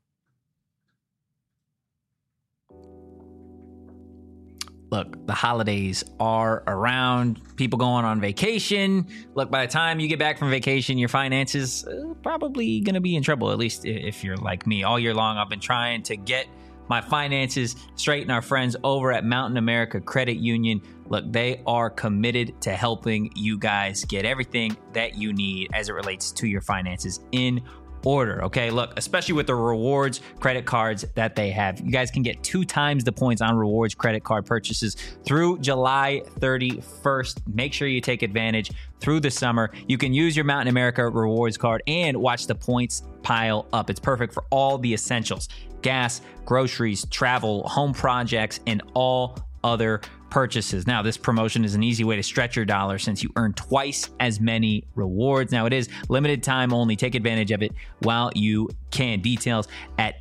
Look, the holidays are around. People going on vacation. Look, by the time you get back from vacation, your finances uh, probably going to be in trouble, at least if you're like me. All year long, I've been trying to get my finances straight, and our friends over at Mountain America Credit Union, look, they are committed to helping you guys get everything that you need as it relates to your finances in order. Okay, look, especially with the rewards credit cards that they have, you guys can get two times the points on rewards credit card purchases through July thirty-first. Make sure you take advantage through the summer. You can use your Mountain America rewards card and watch the points pile up. It's perfect for all the essentials: gas, groceries, travel, home projects, and all other purchases. Now, this promotion is an easy way to stretch your dollar since you earn twice as many rewards. Now, it is limited time only. Take advantage of it while you can. Details at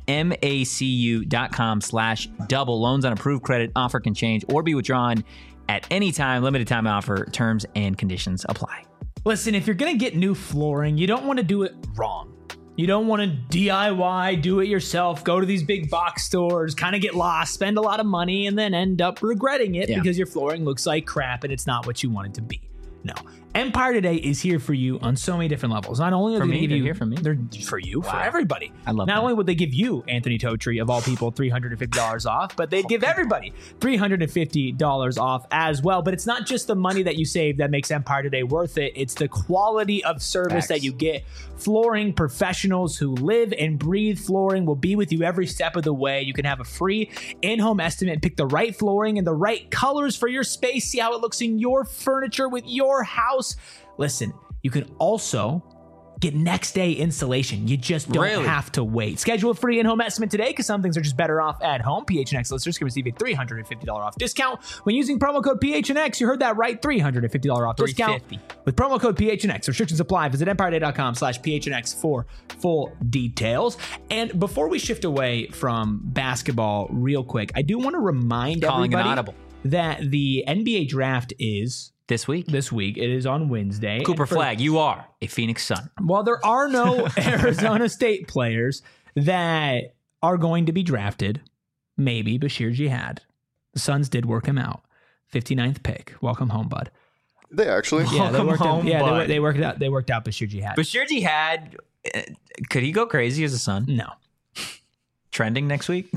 macu.com slash double. Loans on approved credit offer can change or be withdrawn at any time. Limited time offer. Terms and conditions apply. Listen, if you're going to get new flooring, you don't want to do it wrong. You don't want to D I Y, do it yourself, go to these big box stores, kind of get lost, spend a lot of money, and then end up regretting it Yeah. because your flooring looks like crap and it's not what you want it to be. No. Empire Today is here for you on so many different levels. Not only are For they me? going to give They're you here for me? They're for you, for Wow. everybody. I love Not that. only would they give you, Anthony Totri, of all people, three hundred fifty dollars off, but they'd give everybody three hundred fifty dollars off as well. But it's not just the money that you save that makes Empire Today worth it. It's the quality of service Facts. that you get. Flooring professionals who live and breathe flooring will be with you every step of the way. You can have a free in-home estimate, pick the right flooring and the right colors for your space, see how it looks in your furniture with your house. Listen, you can also get next day installation. You just don't Really? have to wait. Schedule a free in-home estimate today because some things are just better off at home. P H N X listeners can receive a three hundred fifty dollars off discount when using promo code P H N X. You heard that right, three hundred fifty dollars off discount three hundred fifty dollars with promo code P H N X. Restrictions apply. Visit empireday.com slash PHNX for full details. And before we shift away from basketball real quick, I do want to remind Calling an everybody audible. that the N B A draft is This week, this week. It is on Wednesday. Cooper And for- Flag, you are a Phoenix Sun. While there are no Arizona State players that are going to be drafted, maybe Bashir Jihad. The Suns did work him out. fifty-ninth pick. Welcome home, bud. They actually. Yeah, they Welcome worked home, him, yeah, they, bud. wor- they worked it out. They worked out Bashir Jihad. Bashir Jihad, uh, could he go crazy as a Sun? no. Trending next week?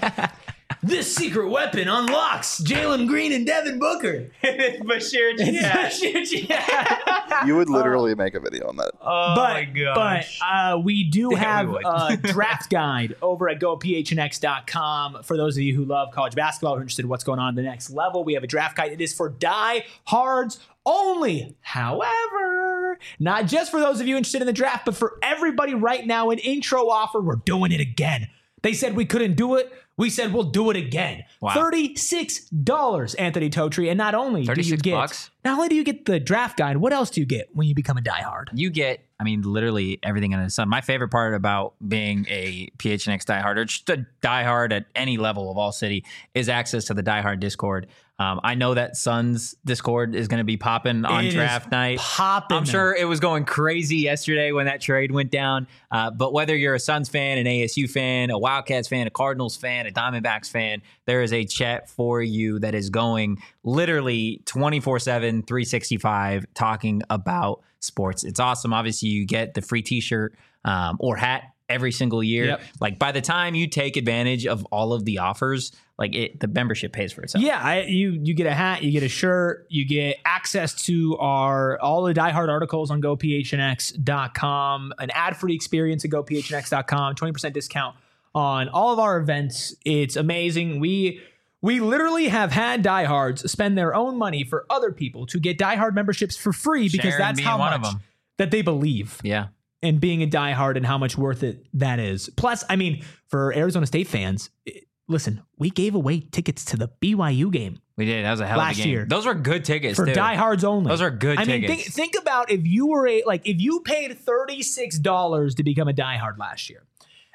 This secret weapon unlocks Jalen Green and Devin Booker. Bashir Bashir Jihad. You would literally make a video on that. Oh but but uh, we do Yeah, have we would. a draft guide over at go P H N X dot com. For those of you who love college basketball, who are interested in what's going on at the next level, we have a draft guide. It is for die-hards only. However, not just for those of you interested in the draft, but for everybody right now, an intro offer. We're doing it again. They said we couldn't do it. We said we'll do it again. Wow. thirty-six dollars, Anthony Totri. And not only do you thirty-six get bucks? not only do you get the draft guide, what else do you get when you become a diehard? You get, I mean, literally everything under the sun. My favorite part about being a P H N X diehard, or just a diehard at any level of All City, is access to the diehard Discord. Um, I know that Suns Discord is going to be popping on It draft is night. popping. I'm sure it was going crazy yesterday when that trade went down. Uh, but whether you're a Suns fan, an A S U fan, a Wildcats fan, a Cardinals fan, a Diamondbacks fan, there is a chat for you that is going literally twenty-four seven, three sixty-five talking about sports. It's awesome. Obviously, you get the free t-shirt um, or hat every single year. Yep. Like by the time you take advantage of all of the offers, like it, the membership pays for itself. Yeah, I, you you get a hat, you get a shirt, you get access to our all the diehard articles on go p h n x dot com, an ad-free experience at go p h n x dot com, twenty percent discount on all of our events. It's amazing. We we literally have had diehards spend their own money for other people to get diehard memberships for free because Sharon that's being how one much of them. that they believe Yeah. in being a diehard and how much worth it that is. Plus, I mean, for Arizona State fans, it, listen, we gave away tickets to the B Y U game We did. That was a hell Last of a game. year. Those were good tickets for too. diehards only. Those are good I mean, tickets. think, think about if you were a like if you paid thirty-six dollars to become a diehard last year,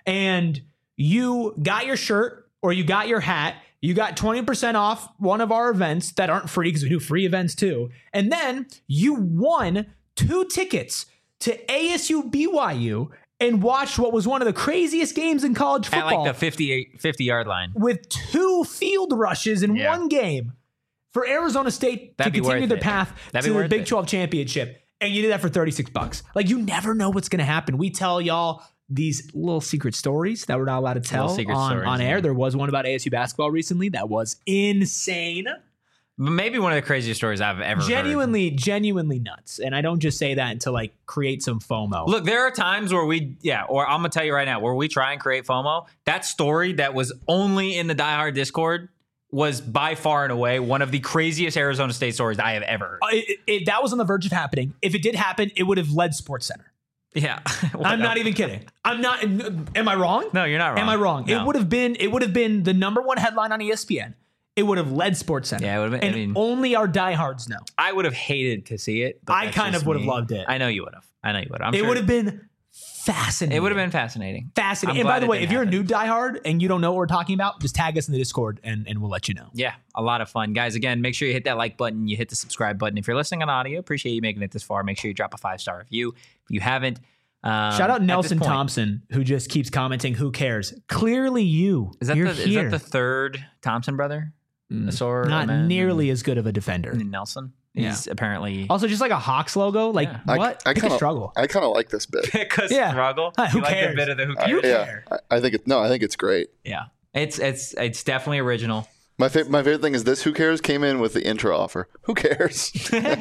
and you got your shirt or you got your hat, you got twenty percent off one of our events that aren't free because we do free events too, and then you won two tickets to A S U B Y U and watched what was one of the craziest games in college At football like the fifty-eight, fifty yard line. with two field rushes in Yeah. one game for Arizona State That'd to be continue worth their it. path That'd to be the worth Big it. twelve championship. And you did that for thirty-six bucks. Like, you never know what's going to happen. We tell y'all these little secret stories that we're not allowed to tell Little secret on, stories, on air. yeah. There was one about A S U basketball recently that was insane. Maybe one of the craziest stories I've ever heard. Genuinely, genuinely nuts. And I don't just say that to like create some FOMO. Look, there are times where we, yeah, or I'm gonna tell you right now, where we try and create FOMO. That story that was only in the Die Hard Discord was by far and away one of the craziest Arizona State stories I have ever heard. Uh, it- it- that was on the verge of happening. If it did happen, it would have led Sports Center. Yeah, I'm not even kidding. I'm not. Am I wrong? No, you're not wrong. Am I wrong? No. It would have been. It would have been the number one headline on E S P N. It would have led Sports Center. Yeah, it would have been. And I mean, only our diehards know. I would have hated to see it. But I that's kind just of would have me. loved it. I know you would have. I know you would have. I'm It sure would have been fascinating. It would have been fascinating. fascinating. I'm And by glad the it way, didn't if you're happen. a new diehard and you don't know what we're talking about, just tag us in the Discord and, and we'll let you know. Yeah, a lot of fun. Guys, again, make sure you hit that like button. You hit the subscribe button. If you're listening on audio, appreciate you making it this far. Make sure you drop a five-star review. If you haven't, um, Shout out at this Nelson point- Thompson, who just keeps commenting, "Who cares?" Clearly, you. Is that, You're the, is here. that the third Thompson brother? Mm, Asor, Not Amen, nearly as good of a defender. and Nelson. He's apparently Also, just like a Hawks logo. Like, Yeah. I, what? I Pick kinda, a struggle. I kind of like this bit. pick a Yeah. struggle. Huh, who You like cares? the bit of the who I- cares? yeah, care? I, I think it. No, I think it's great. Yeah, it's it's it's definitely original. My fa- my favorite thing is this. Who cares? Came in with the intro offer. Who cares?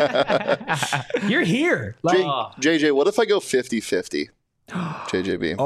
You're here. Like, J- Oh. J J, what if I go fifty-fifty? J J B.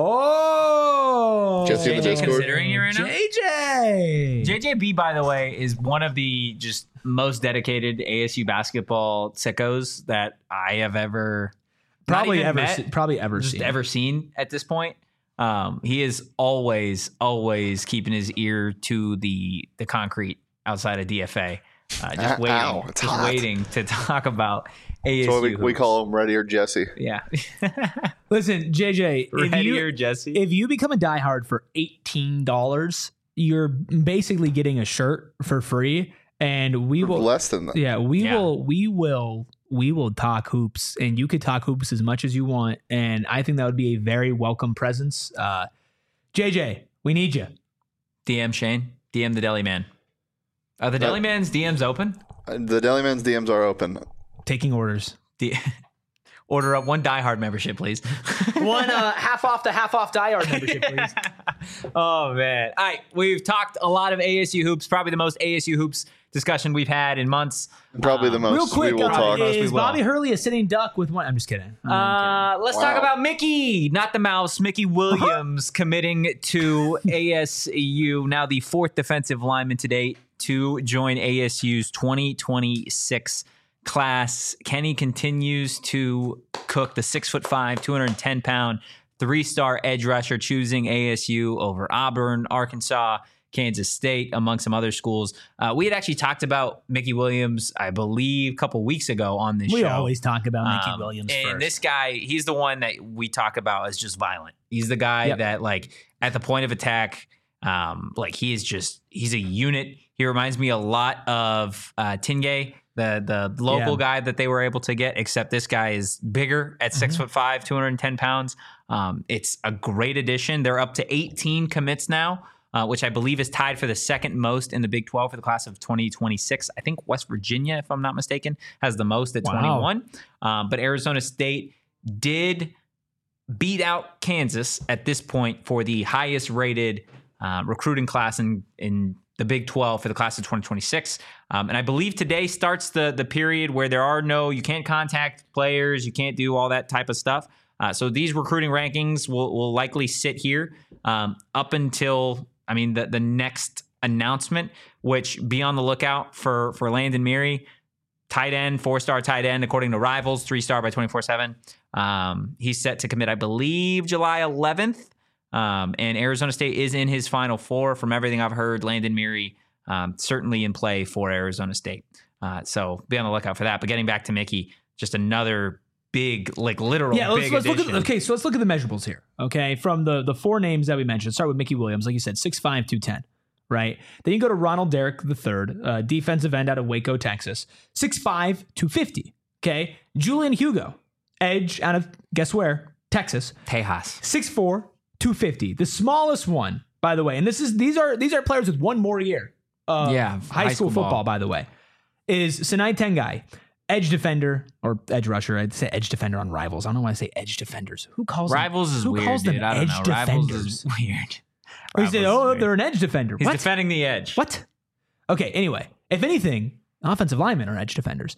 oh, Jesse in the J J Discord. considering you right now? J J. J J B, by the way, is one of the just most dedicated A S U basketball sickos that I have ever not Probably even ever, met, se- probably ever just seen. ever seen at this point. Um, he is always, always keeping his ear to the the concrete outside of D F A, uh, just Ow, waiting, it's just hot. waiting to talk about A S U. So we, we hoops. call him Ready or Jesse. yeah, Listen, J J, if Ready you, or Jesse. if you become a diehard for eighteen dollars, you're basically getting a shirt for free, and we will. Less than that. Yeah, we Yeah. will. We will. We will talk hoops, and you could talk hoops as much as you want, and I think that would be a very welcome presence. Uh, J J, we need you. D M Shane, D M the Deli Man. Are the Uh, Deli Man's D Ms open? Uh, The Deli-Man's D Ms are open. Taking orders. D- Order up one diehard membership, please. One uh, half off the half off diehard membership, please. Oh man! All right, we've talked a lot of A S U hoops. Probably the most A S U hoops discussion we've had in months. Probably the Um, most Real quick, we will uh, talk. Most we is will. Bobby Hurley a sitting duck with one? I'm just kidding. I'm Uh, let's Wow. talk about Mickey, not the mouse. Mickey Williams committing to A S U, now the fourth defensive lineman today to join A S U's twenty twenty-six class. Kenny continues to cook the six foot five, two hundred ten pound, three star edge rusher, choosing A S U over Auburn, Arkansas, Kansas State, among some other schools. Uh, we had actually talked about Mickey Williams, I believe, a couple weeks ago on this we show. We always talk about Mickey um, Williams and first. this guy, he's the one that we talk about as just violent. He's the guy Yep. that, like, at the point of attack, um, like, he is just, he's a unit. He reminds me a lot of uh, Tingay, the the local Yeah. guy that they were able to get, except this guy is bigger at six Mm-hmm. foot five, two hundred ten pounds. Um, it's a great addition. They're up to eighteen commits now, uh, which I believe is tied for the second most in the Big twelve for the class of twenty twenty-six. I think West Virginia, if I'm not mistaken, has the most at Wow. twenty-one. Um, but Arizona State did beat out Kansas at this point for the highest rated uh, recruiting class in, in the Big twelve for the class of twenty twenty-six. Um, and I believe today starts the the period where there are no, you can't contact players, you can't do all that type of stuff. Uh, so these recruiting rankings will, will likely sit here um, up until, I mean, the, the next announcement, which be on the lookout for, for Landon Meary, tight end, four-star tight end, according to Rivals, three-star by twenty-four seven. Um, he's set to commit, I believe, July eleventh. Um, and Arizona State is in his Final Four. From everything I've heard, Landon Meary um, certainly in play for Arizona State. Uh, so be on the lookout for that. But getting back to Mickey, just another big, like literal Yeah, let's, big let's look at addition. okay. So let's look at the measurables here. Okay, from the the four names that we mentioned, start with Mickey Williams, like you said, six five, two ten. Right. Then you go to Ronald Derrick the third, uh, defensive end out of Waco, Texas, six five, two fifty. Okay, Julian Hugo, edge out of guess where, Texas, Tejas. six four, two fifty. The smallest one, by the way, and this is these are these are players with one more year of Yeah, high, high school, school football, ball. by the way, is Sinai Tengai, edge defender or edge rusher. I'd say edge defender on Rivals. I don't know why I say edge defenders. Who calls Rivals them, is who weird, calls them dude. I don't edge know. Rivals defenders? is weird. Or you say, Rivals is oh, weird. they're an edge defender. He's What? defending the edge. What? Okay, anyway, if anything, offensive linemen are edge defenders.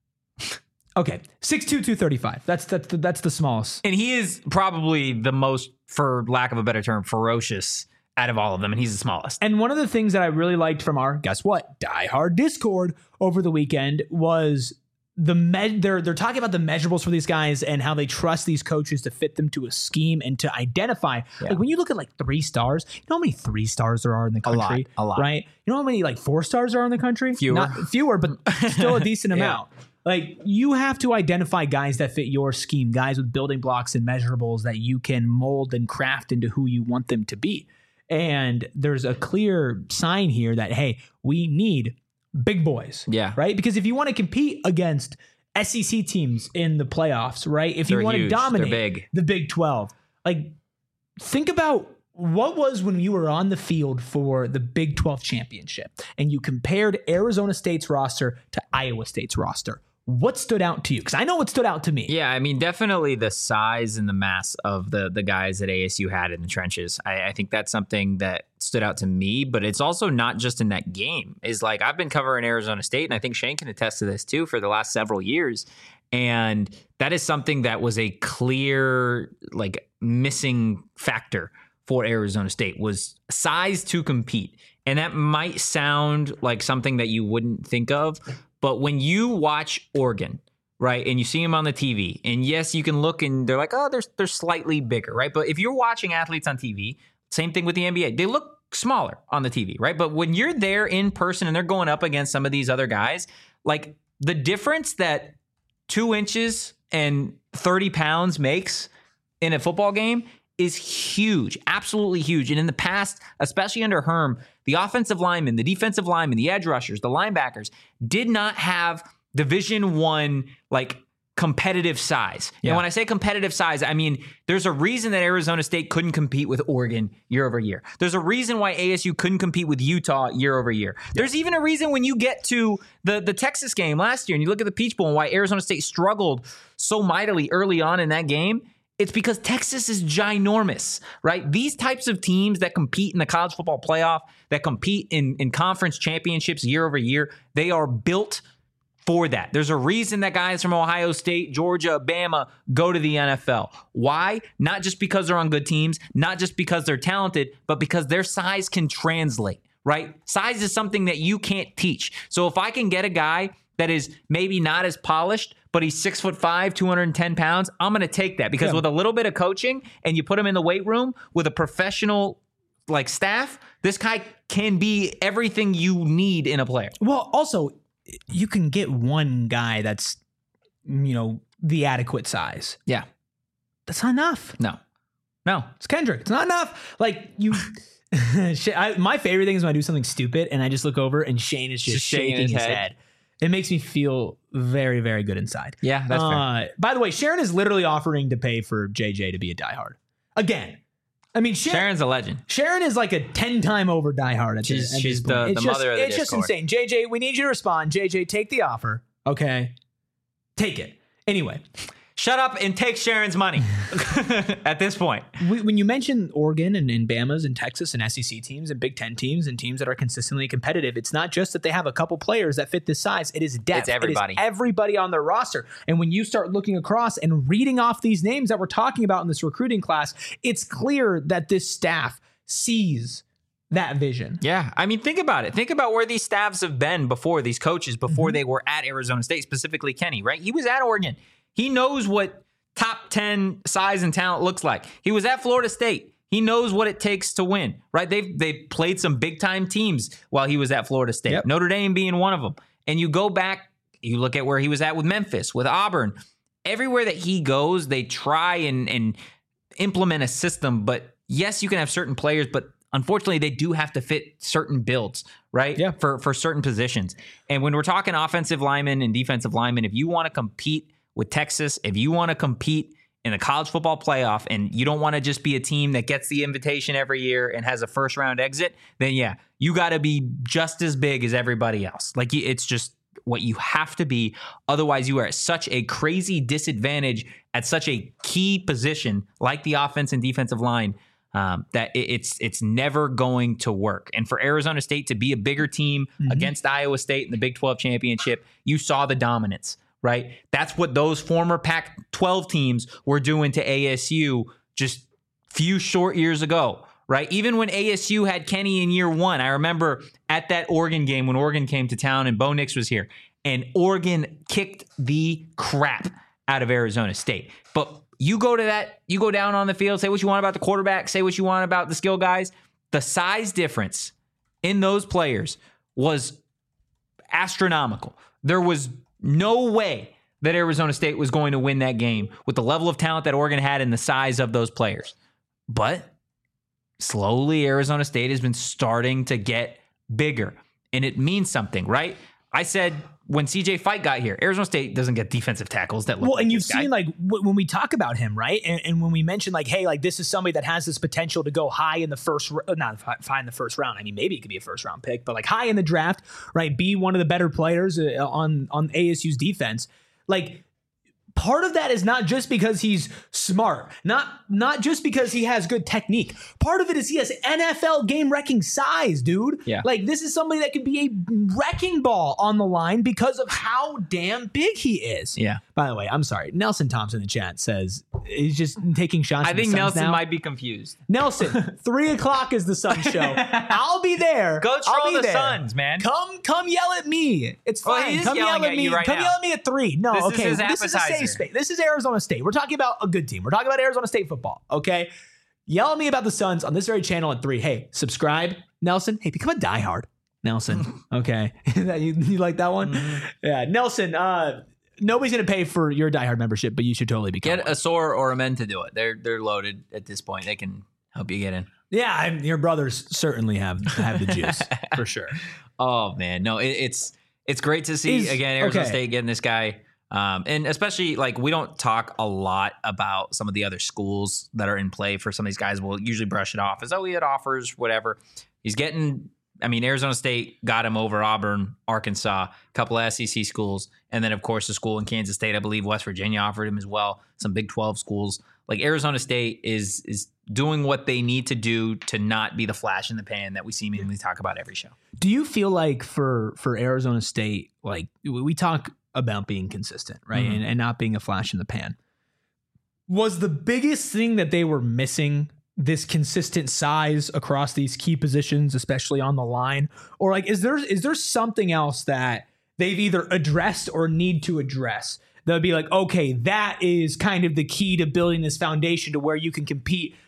Okay, six two, two thirty-five. That's that's the, that's the smallest. And he is probably the most, for lack of a better term, ferocious out of all of them, and he's the smallest. And one of the things that I really liked from our, guess what, Die Hard Discord over the weekend was the med. They're they're talking about the measurables for these guys and how they trust these coaches to fit them to a scheme and to identify. Yeah. Like when you look at like three stars, you know how many three stars there are in the A lot, country, a lot. right? You know how many like four stars there are in the country? Fewer. Not, fewer, but still a decent Yeah. amount. Like you have to identify guys that fit your scheme, guys with building blocks and measurables that you can mold and craft into who you want them to be. And there's a clear sign here that, hey, we need big boys. Yeah. Right? Because if you want to compete against S E C teams in the playoffs, right? If They're you want to huge. They're dominate big. the Big twelve, like think about what was when you were on the field for the Big twelve championship and you compared Arizona State's roster to Iowa State's roster. What stood out to you? Because I know what stood out to me. Yeah, I mean, definitely the size and the mass of the the guys that A S U had in the trenches. I, I think that's something that stood out to me, but it's also not just in that game. Is like I've been covering Arizona State, and I think Shane can attest to this too for the last several years. And that is something that was a clear, like, missing factor for Arizona State was size to compete. And that might sound like something that you wouldn't think of, but when you watch Oregon, right, and you see them on the T V, and yes, you can look and they're like, oh, they're, they're slightly bigger, right? But if you're watching athletes on T V, same thing with the N B A, they look smaller on the T V, right? But when you're there in person and they're going up against some of these other guys, like the difference that two inches and thirty pounds makes in a football game is huge, absolutely huge. And in the past, especially under Herm, the offensive linemen, the defensive linemen, the edge rushers, the linebackers did not have Division One like competitive size. Yeah. And when I say competitive size, I mean there's a reason that Arizona State couldn't compete with Oregon year over year. There's a reason why A S U couldn't compete with Utah year over year. There's even a reason when you get to the, the Texas game last year and you look at the Peach Bowl and why Arizona State struggled so mightily early on in that game. It's because Texas is ginormous, right? These types of teams that compete in the college football playoff, that compete in, in conference championships year over year, they are built for that. There's a reason that guys from Ohio State, Georgia, Bama go to the N F L. Why? Not just because they're on good teams, not just because they're talented, but because their size can translate, right? Size is something that you can't teach. So if I can get a guy that is maybe not as polished, but he's six foot five, two hundred ten pounds, I'm going to take that because Yeah. with a little bit of coaching and you put him in the weight room with a professional like staff, this guy can be everything you need in a player. Well, also, you can get one guy that's, you know, the adequate size. Yeah. That's not enough. No. No. It's Kendrick. It's not enough. Like, you... I, my favorite thing is when I do something stupid and I just look over and Shane is just, just shaking his, his head. head. It makes me feel very, very good inside. Yeah, that's uh, fair. By the way, Sharon is literally offering to pay for J J to be a diehard. Again. I mean, Sharon, Sharon's a legend. Sharon is like a ten-time over diehard. At she's the, at she's this the, it's the just, mother of the It's Discord. just insane. J J, we need you to respond. J J, take the offer. Okay? Take it. Anyway. Shut up and take Sharon's money at this point. When you mention Oregon and, and Bama's and Texas and S E C teams and Big Ten teams and teams that are consistently competitive, it's not just that they have a couple players that fit this size. It is depth. It's everybody. It is everybody on their roster. And when you start looking across and reading off these names that we're talking about in this recruiting class, it's clear that this staff sees that vision. Yeah. I mean, think about it. Think about where these staffs have been before, these coaches, before mm-hmm. they were at Arizona State, specifically Kenny, right? He was at Oregon. He knows what top ten size and talent looks like. He was at Florida State. He knows what it takes to win, right? They've they played some big time teams while he was at Florida State. Yep. Notre Dame being one of them. And you go back, you look at where he was at with Memphis, with Auburn. Everywhere that he goes, they try and, and implement a system. But yes, you can have certain players, but unfortunately, they do have to fit certain builds, right? Yeah. For, for certain positions. And when we're talking offensive linemen and defensive linemen, if you want to compete with Texas, if you want to compete in the college football playoff and you don't want to just be a team that gets the invitation every year and has a first round exit, then yeah, you got to be just as big as everybody else. Like it's just what you have to be. Otherwise, you are at such a crazy disadvantage at such a key position like the offense and defensive line um, that it's it's never going to work. And for Arizona State to be a bigger team mm-hmm. against Iowa State in the Big twelve championship, you saw the dominance. Right? That's what those former Pac twelve teams were doing to A S U just few short years ago, right? Even when A S U had Kenny in year one, I remember at that Oregon game when Oregon came to town and Bo Nix was here, and Oregon kicked the crap out of Arizona State. But you go to that, you go down on the field, say what you want about the quarterback, say what you want about the skill guys. The size difference in those players was astronomical. There was no way that Arizona State was going to win that game with the level of talent that Oregon had and the size of those players. But slowly, Arizona State has been starting to get bigger, and it means something, right? I said when C J Fight got here, Arizona State doesn't get defensive tackles that look well, like and you've this guy. seen like w- when we talk about him, right? And, and when we mention like, hey, like this is somebody that has this potential to go high in the first, not high in the first round. I mean, maybe it could be a first round pick, but like high in the draft, right? Be one of the better players uh, on on A S U's defense. Like part of that is not just because he's smart, not not just because he has good technique. Part of it is he has N F L game-wrecking size, dude. Yeah. Like this is somebody that could be a wrecking ball on the line because of how damn big he is. Yeah. By the way, I'm sorry. Nelson Thompson in the chat says he's just taking shots. I at think the Nelson now. might be confused. Nelson, three o'clock is the Sun show. I'll be there. Go I'll troll be the there. Suns, man. Come, come yell at me. It's Well, fine. he is come yelling yell at, at me. you right come now. yell at me at three. No, This is okay. his This is a appetizer. safe space. This is Arizona State. We're talking about a good team. We're talking about Arizona State football. Okay. Yell at me about the Suns on this very channel at three. Hey, subscribe, Nelson. Hey, become a diehard, Nelson. Okay, you, you like that one? Mm-hmm. Yeah, Nelson. Uh, nobody's gonna pay for your diehard membership, but you should totally become Get one. a Soar or a Men to do it. They're they're loaded at this point. They can help you get in. Yeah, I'm, your brothers certainly have have the juice for sure. Oh man, no, it, it's it's great to see Is- again Arizona okay. State getting this guy. Um, and especially like we don't talk a lot about some of the other schools that are in play for some of these guys. We'll usually brush it off as, oh, he had offers, whatever. He's getting, I mean, Arizona State got him over Auburn, Arkansas, a couple of S E C schools. And then, of course, the school in Kansas State, I believe West Virginia offered him as well. Some Big twelve schools. Like Arizona State is is doing what they need to do to not be the flash in the pan that we seemingly talk about every show. Do you feel like for for Arizona State, like we we talk about being consistent, right? Mm-hmm. And, and not being a flash in the pan. Was the biggest thing that they were missing this consistent size across these key positions, especially on the line? Or like, is there is there something else that they've either addressed or need to address that would be like, okay, that is kind of the key to building this foundation to where you can compete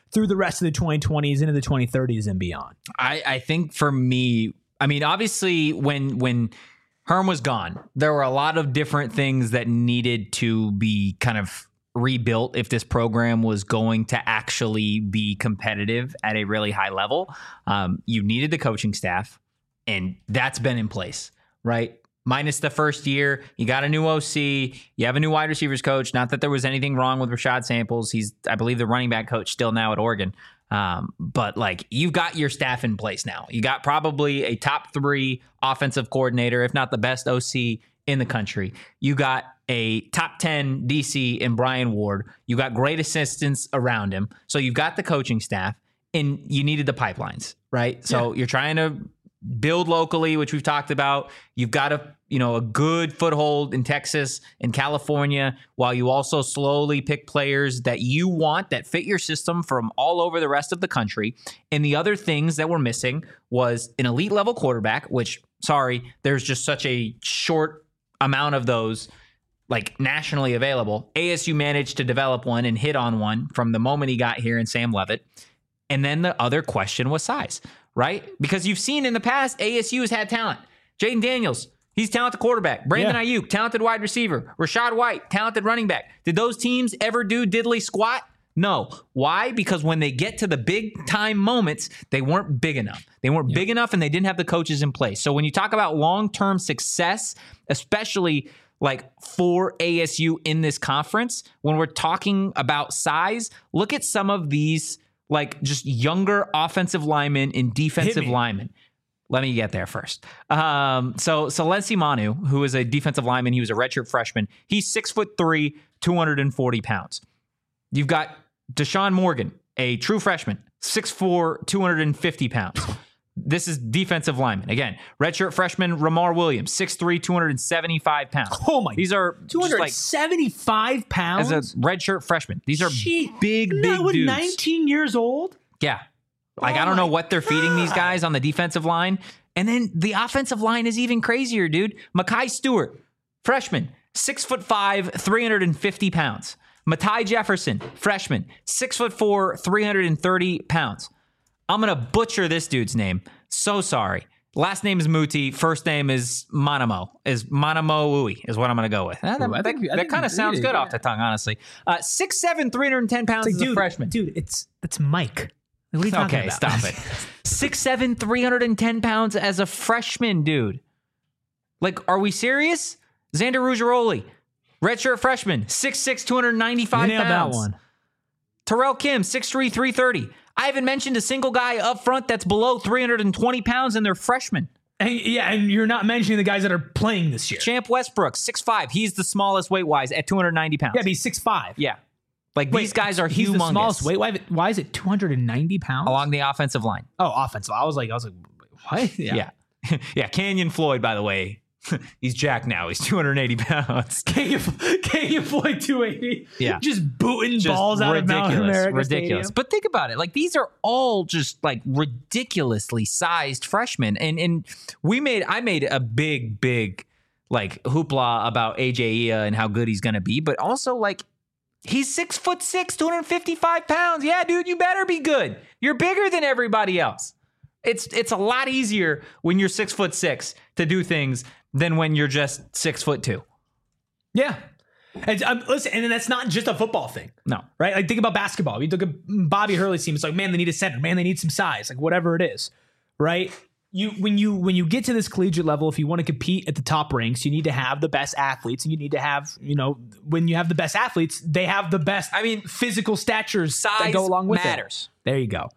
through the rest of the twenty twenties into the twenty thirties and beyond. I, I think for me, I mean, obviously when when Herm was gone, there were a lot of different things that needed to be kind of rebuilt if this program was going to actually be competitive at a really high level. Um, you needed the coaching staff, and that's been in place, right? Minus the first year, you got a new O C, you have a new wide receivers coach. Not that there was anything wrong with Rashad Samples. He's, I believe, the running back coach still now at Oregon. Um, but like, you've got your staff in place now. You got probably a top three offensive coordinator, if not the best O C in the country. You got a top ten D C in Brian Ward. You got great assistants around him. So you've got the coaching staff, and you needed the pipelines, right? So yeah. You're trying to build locally, which we've talked about. You've got a, you know, a good foothold in Texas and California, while you also slowly pick players that you want that fit your system from all over the rest of the country. And the other things that were missing was an elite level quarterback, which, sorry, there's just such a short amount of those like nationally available. A S U managed to develop one and hit on one from the moment he got here in Sam Leavitt. And then the other question was size, right? Because you've seen in the past, A S U has had talent. Jaden Daniels, he's talented quarterback. Brandon yeah. Ayuk, talented wide receiver. Rashad White, talented running back. Did those teams ever do diddly squat? No. Why? Because when they get to the big time moments, they weren't big enough. They weren't yeah. big enough, and they didn't have the coaches in place. So when you talk about long-term success, especially like for A S U in this conference, when we're talking about size, look at some of these like just younger offensive linemen and defensive linemen. Let me get there first. Um, so Salensi Manu, who is a defensive lineman, he was a redshirt freshman. He's six foot three, two hundred forty pounds. You've got Deshaun Morgan, a true freshman, six foot four, two hundred fifty pounds. This is defensive lineman. Again, redshirt freshman Ramar Williams, six foot three, two hundred seventy-five pounds. Oh my! These are two hundred seventy-five like, pounds as a redshirt freshman. These are Gee, big, big with dudes. nineteen years old. Yeah, like oh I don't know my what they're God. feeding these guys on the defensive line, and then the offensive line is even crazier, dude. Makai Stewart, freshman, six foot five, three hundred fifty pounds. Matai Jefferson, freshman, six foot four, three hundred thirty pounds. I'm going to butcher this dude's name. So sorry. Last name is Muti. First name is Manamo. Is Manamo Ui is what I'm going to go with. Uh, that Ooh, I think- I that think kind of you sounds did, good yeah. off the tongue, honestly. Uh, six seven, three hundred ten pounds It's as like, a dude, freshman. dude, it's it's Mike. What are you talking Okay, about? stop it. six seven, three hundred ten pounds as a freshman, dude. Like, are we serious? Xander Ruggiero, redshirt freshman, six six, two hundred ninety-five You nailed pounds. that one. Terrell Kim, six three, three thirty. I haven't mentioned a single guy up front that's below three hundred twenty pounds, and they're freshmen. And, yeah, and you're not mentioning the guys that are playing this year. Champ Westbrook, six five. He's the smallest weight-wise at two hundred ninety pounds. Yeah, but he's six five. Yeah. Like, these guys are he's humongous. the smallest weight. Why, why is it two hundred ninety pounds? Along the offensive line. Oh, offensive. I was like, I was like, what? Yeah. Yeah, yeah. Canyon Floyd, by the way, he's jacked now. He's two hundred eighty pounds. Canyon, Canyon Floyd two eighty. Yeah. Just booting Just balls out of Mount America ridiculous. Stadium. But think about it. Like, these are all just like ridiculously sized freshmen. And and we made I made a big, big like hoopla about A J Ia and how good he's gonna be, but also like he's six foot six, two hundred fifty-five pounds. Yeah, dude, you better be good. You're bigger than everybody else. It's it's a lot easier when you're six foot six to do things than when you're just six foot two. Yeah. And, um, listen, and that's not just a football thing. No. Right? Like, think about basketball. You look at Bobby Hurley's team. It's like, man, they need a center. Man, they need some size. Like, whatever it is. Right? You when you when you get to this collegiate level, if you want to compete at the top ranks, you need to have the best athletes, and you need to have, you know, when you have the best athletes, they have the best I mean, physical statures size that go along with matters. it. There you go.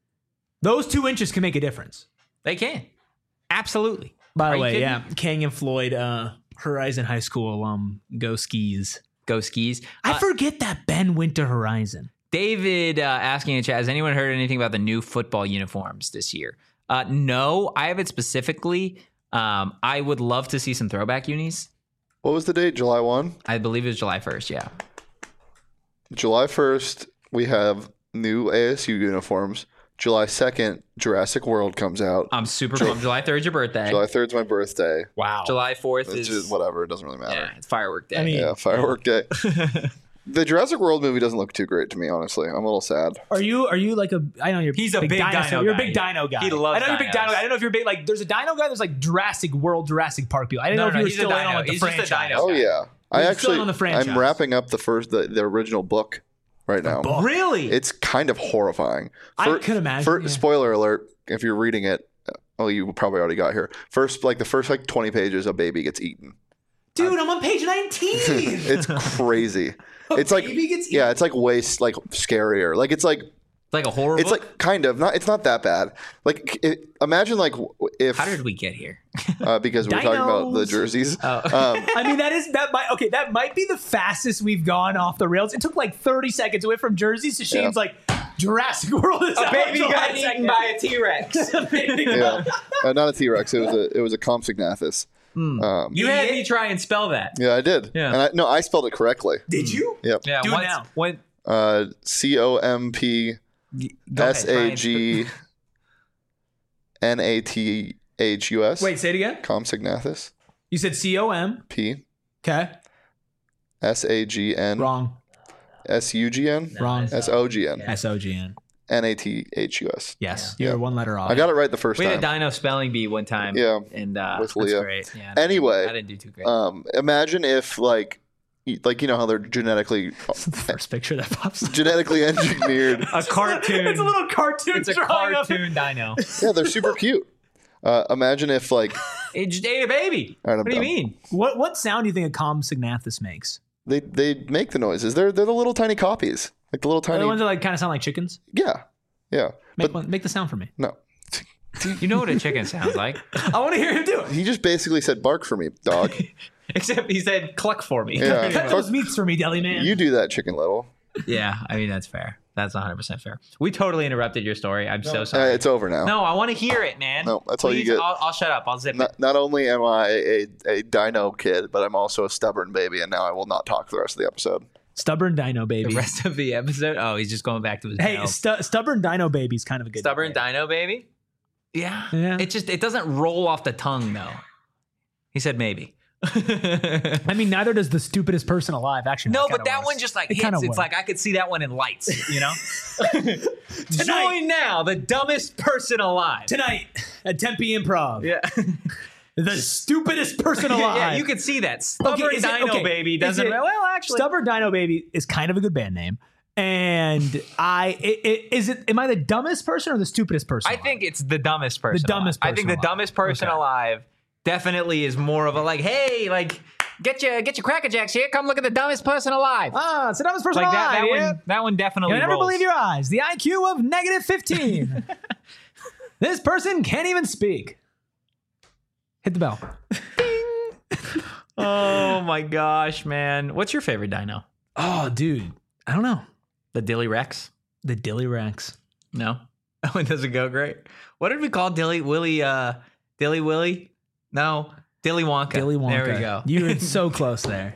Those two inches can make a difference. They can. Absolutely. By Are the you way, kidding yeah, me? Canyon Floyd, uh, Horizon High School alum, go skis. Go skis. I Uh, forget that Ben went to Horizon. David uh, asking in chat, has anyone heard anything about the new football uniforms this year? Uh, no, I haven't specifically. Um, I would love to see some throwback unis. What was the date? July first? I believe it was July first, yeah. July first, we have new A S U uniforms. July second, Jurassic World comes out. I'm super pumped. July third is your birthday. July third is my birthday. Wow. July fourth It's is... just whatever. It doesn't really matter. Yeah, it's firework day. I mean- Yeah, firework day. The Jurassic World movie doesn't look too great to me, honestly. I'm a little sad. Are you are you like a I know you're He's a big dinosaur. dino You're a guy. big dino guy. He loves I know you're a big dinos. dino guy. I don't know if you're big like there's a dino guy, there's like Jurassic World, Jurassic Park people. I didn't No, know if no, you were he's a still in dino. on like the He's just a franchise. dino. Oh Okay. yeah, I You're still actually on the franchise. I'm wrapping up the first the, the original book right now. book? Really? It's kind of horrifying. I For- could imagine, for- yeah. Spoiler alert: if you're reading it, oh, you probably already got here. First, like the first like twenty pages, a baby gets eaten. Dude, I'm on page nineteen. It's crazy. A It's like baby gets yeah, it's like way s- like scarier. Like it's like like a horror it's book? like kind of not. It's not that bad. Like it, imagine like w- if How did we get here? uh, because we were talking about the Dinos. jerseys. Oh. Um, I mean, that is that might okay. That might be the fastest we've gone off the rails. It took like thirty seconds away from jerseys to Shane's Yeah. like Jurassic World is A out baby July got eaten second. by a T-Rex. A baby yeah, uh, not a T Rex. It was a it was a Compsognathus. Um, You had me try and spell that. yeah, I did. Yeah. And I, no, I spelled it correctly. Did you? Yep. Yeah, Do it once, now. When, Uh, C O M P go ahead, S try A and G N A T H U S. Wait, say it again. Compsognathus. You said C O M. P Okay. S A G N Wrong. S U G N Wrong. S O G N S O G N. N A T H U S. Yes. Yeah. You're one letter off. I got it right the first We had time. a dino spelling bee one time. Yeah, And uh, with that's Leah. great. Yeah, Anyway, I didn't do too great. Um, imagine if like, y- like you know how they're genetically It's the first picture that pops up. genetically engineered. a cartoon. It's a little cartoon. It's a drawing of- cartoon dino. Yeah, they're super cute. Uh, imagine if like It just ate a baby. All right, I'm What do you done. mean? What what sound do you think a Compsognathus makes? they they make the noises. They're they're the little tiny copies, like the little Are tiny. the ones that like kind of sound like chickens? yeah, yeah. Make But one, make the sound for me. no, You know what a chicken sounds like. I want to hear him do it. he just basically said bark for me, dog. Except he said cluck for me. Yeah. Cut those meats for me, Deli Man. You do that, Chicken Little. Yeah, I mean, that's fair. That's one hundred percent fair. We totally interrupted your story. I'm so Uh, sorry. it's over now. No, I want to hear it, man. No, that's all you Please, get. I'll, I'll shut up. I'll zip it. Not, not only am I a, a dino kid, but I'm also a stubborn baby, and now I will not talk the rest of the episode. Stubborn Dino Baby. The rest of the episode? Oh, he's just going back to his Hey, mouth. stu- Stubborn Dino Baby's kind of a good Stubborn nickname. dino baby? Yeah. Yeah. It just, it doesn't roll off the tongue, though. He said maybe. I mean, neither does the stupidest person alive. Actually, No, it but kinda that works. one just like It hits. kinda It's works. like I could see that one in lights, you know? Tonight. Join now, the dumbest person alive. tonight at Tempe Improv. Yeah. The stupidest person alive. yeah, you could see that. Stubborn is it- Dino okay, Baby is doesn't. it- well, actually. Stubborn Dino Baby is kind of a good band name. And I i- i- is it am I the dumbest person or the stupidest person? I alive? think it's the dumbest person. The dumbest alive. I think person the alive. dumbest person Okay. alive definitely is more of a like, hey, like, get your get your Cracker Jacks here. Come look at the dumbest person alive. Ah, it's the dumbest person like that. alive. That yeah. one. That one definitely. You'll never rolls. believe your eyes. The I Q of negative fifteen. This person can't even speak. Hit the bell. Oh my gosh, man! What's your favorite dino? Oh, dude. I don't know. The Dilly Rex? The Dilly Rex. No, that one doesn't go great. What did we call Dilly Willy? Uh, Dilly Willy? No, Dilly Wonka. Dilly Wonka. There we go. You were so close there.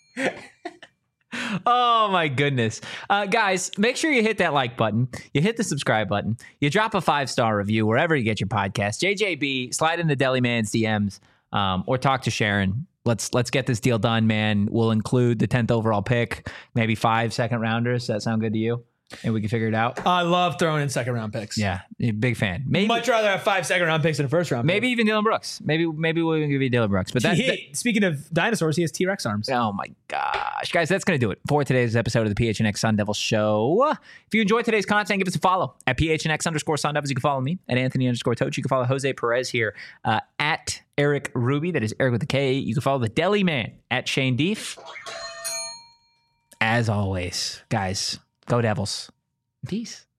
Oh my goodness. Uh, guys, make sure you hit that like button. You hit the subscribe button. You drop a five-star review wherever you get your podcast. J J B, slide into Deli Man's D Ms um, or talk to Sharon. Let's let's get this deal done, man. We'll include the tenth overall pick, maybe five second rounders. Does that sound good to you? And we can figure it out. I love throwing in second round picks. Yeah, big fan. Maybe Much rather have five second round picks than a first round maybe even Dylan Brooks. Maybe maybe we'll even give you Dylan Brooks. But pick. that, He- that speaking of dinosaurs, he has T Rex arms. oh my gosh. Guys, that's going to do it for today's episode of the P H N X Sun Devil Show. If you enjoyed today's content, give us a follow at P H N X underscore Sun Devils. You can follow me at Anthony underscore Toach. You can follow Jose Perez here uh, at Eric Ruby. That is Eric with a K. You can follow the Deli Man at Shane Deef. As always, guys, go Devils. Peace.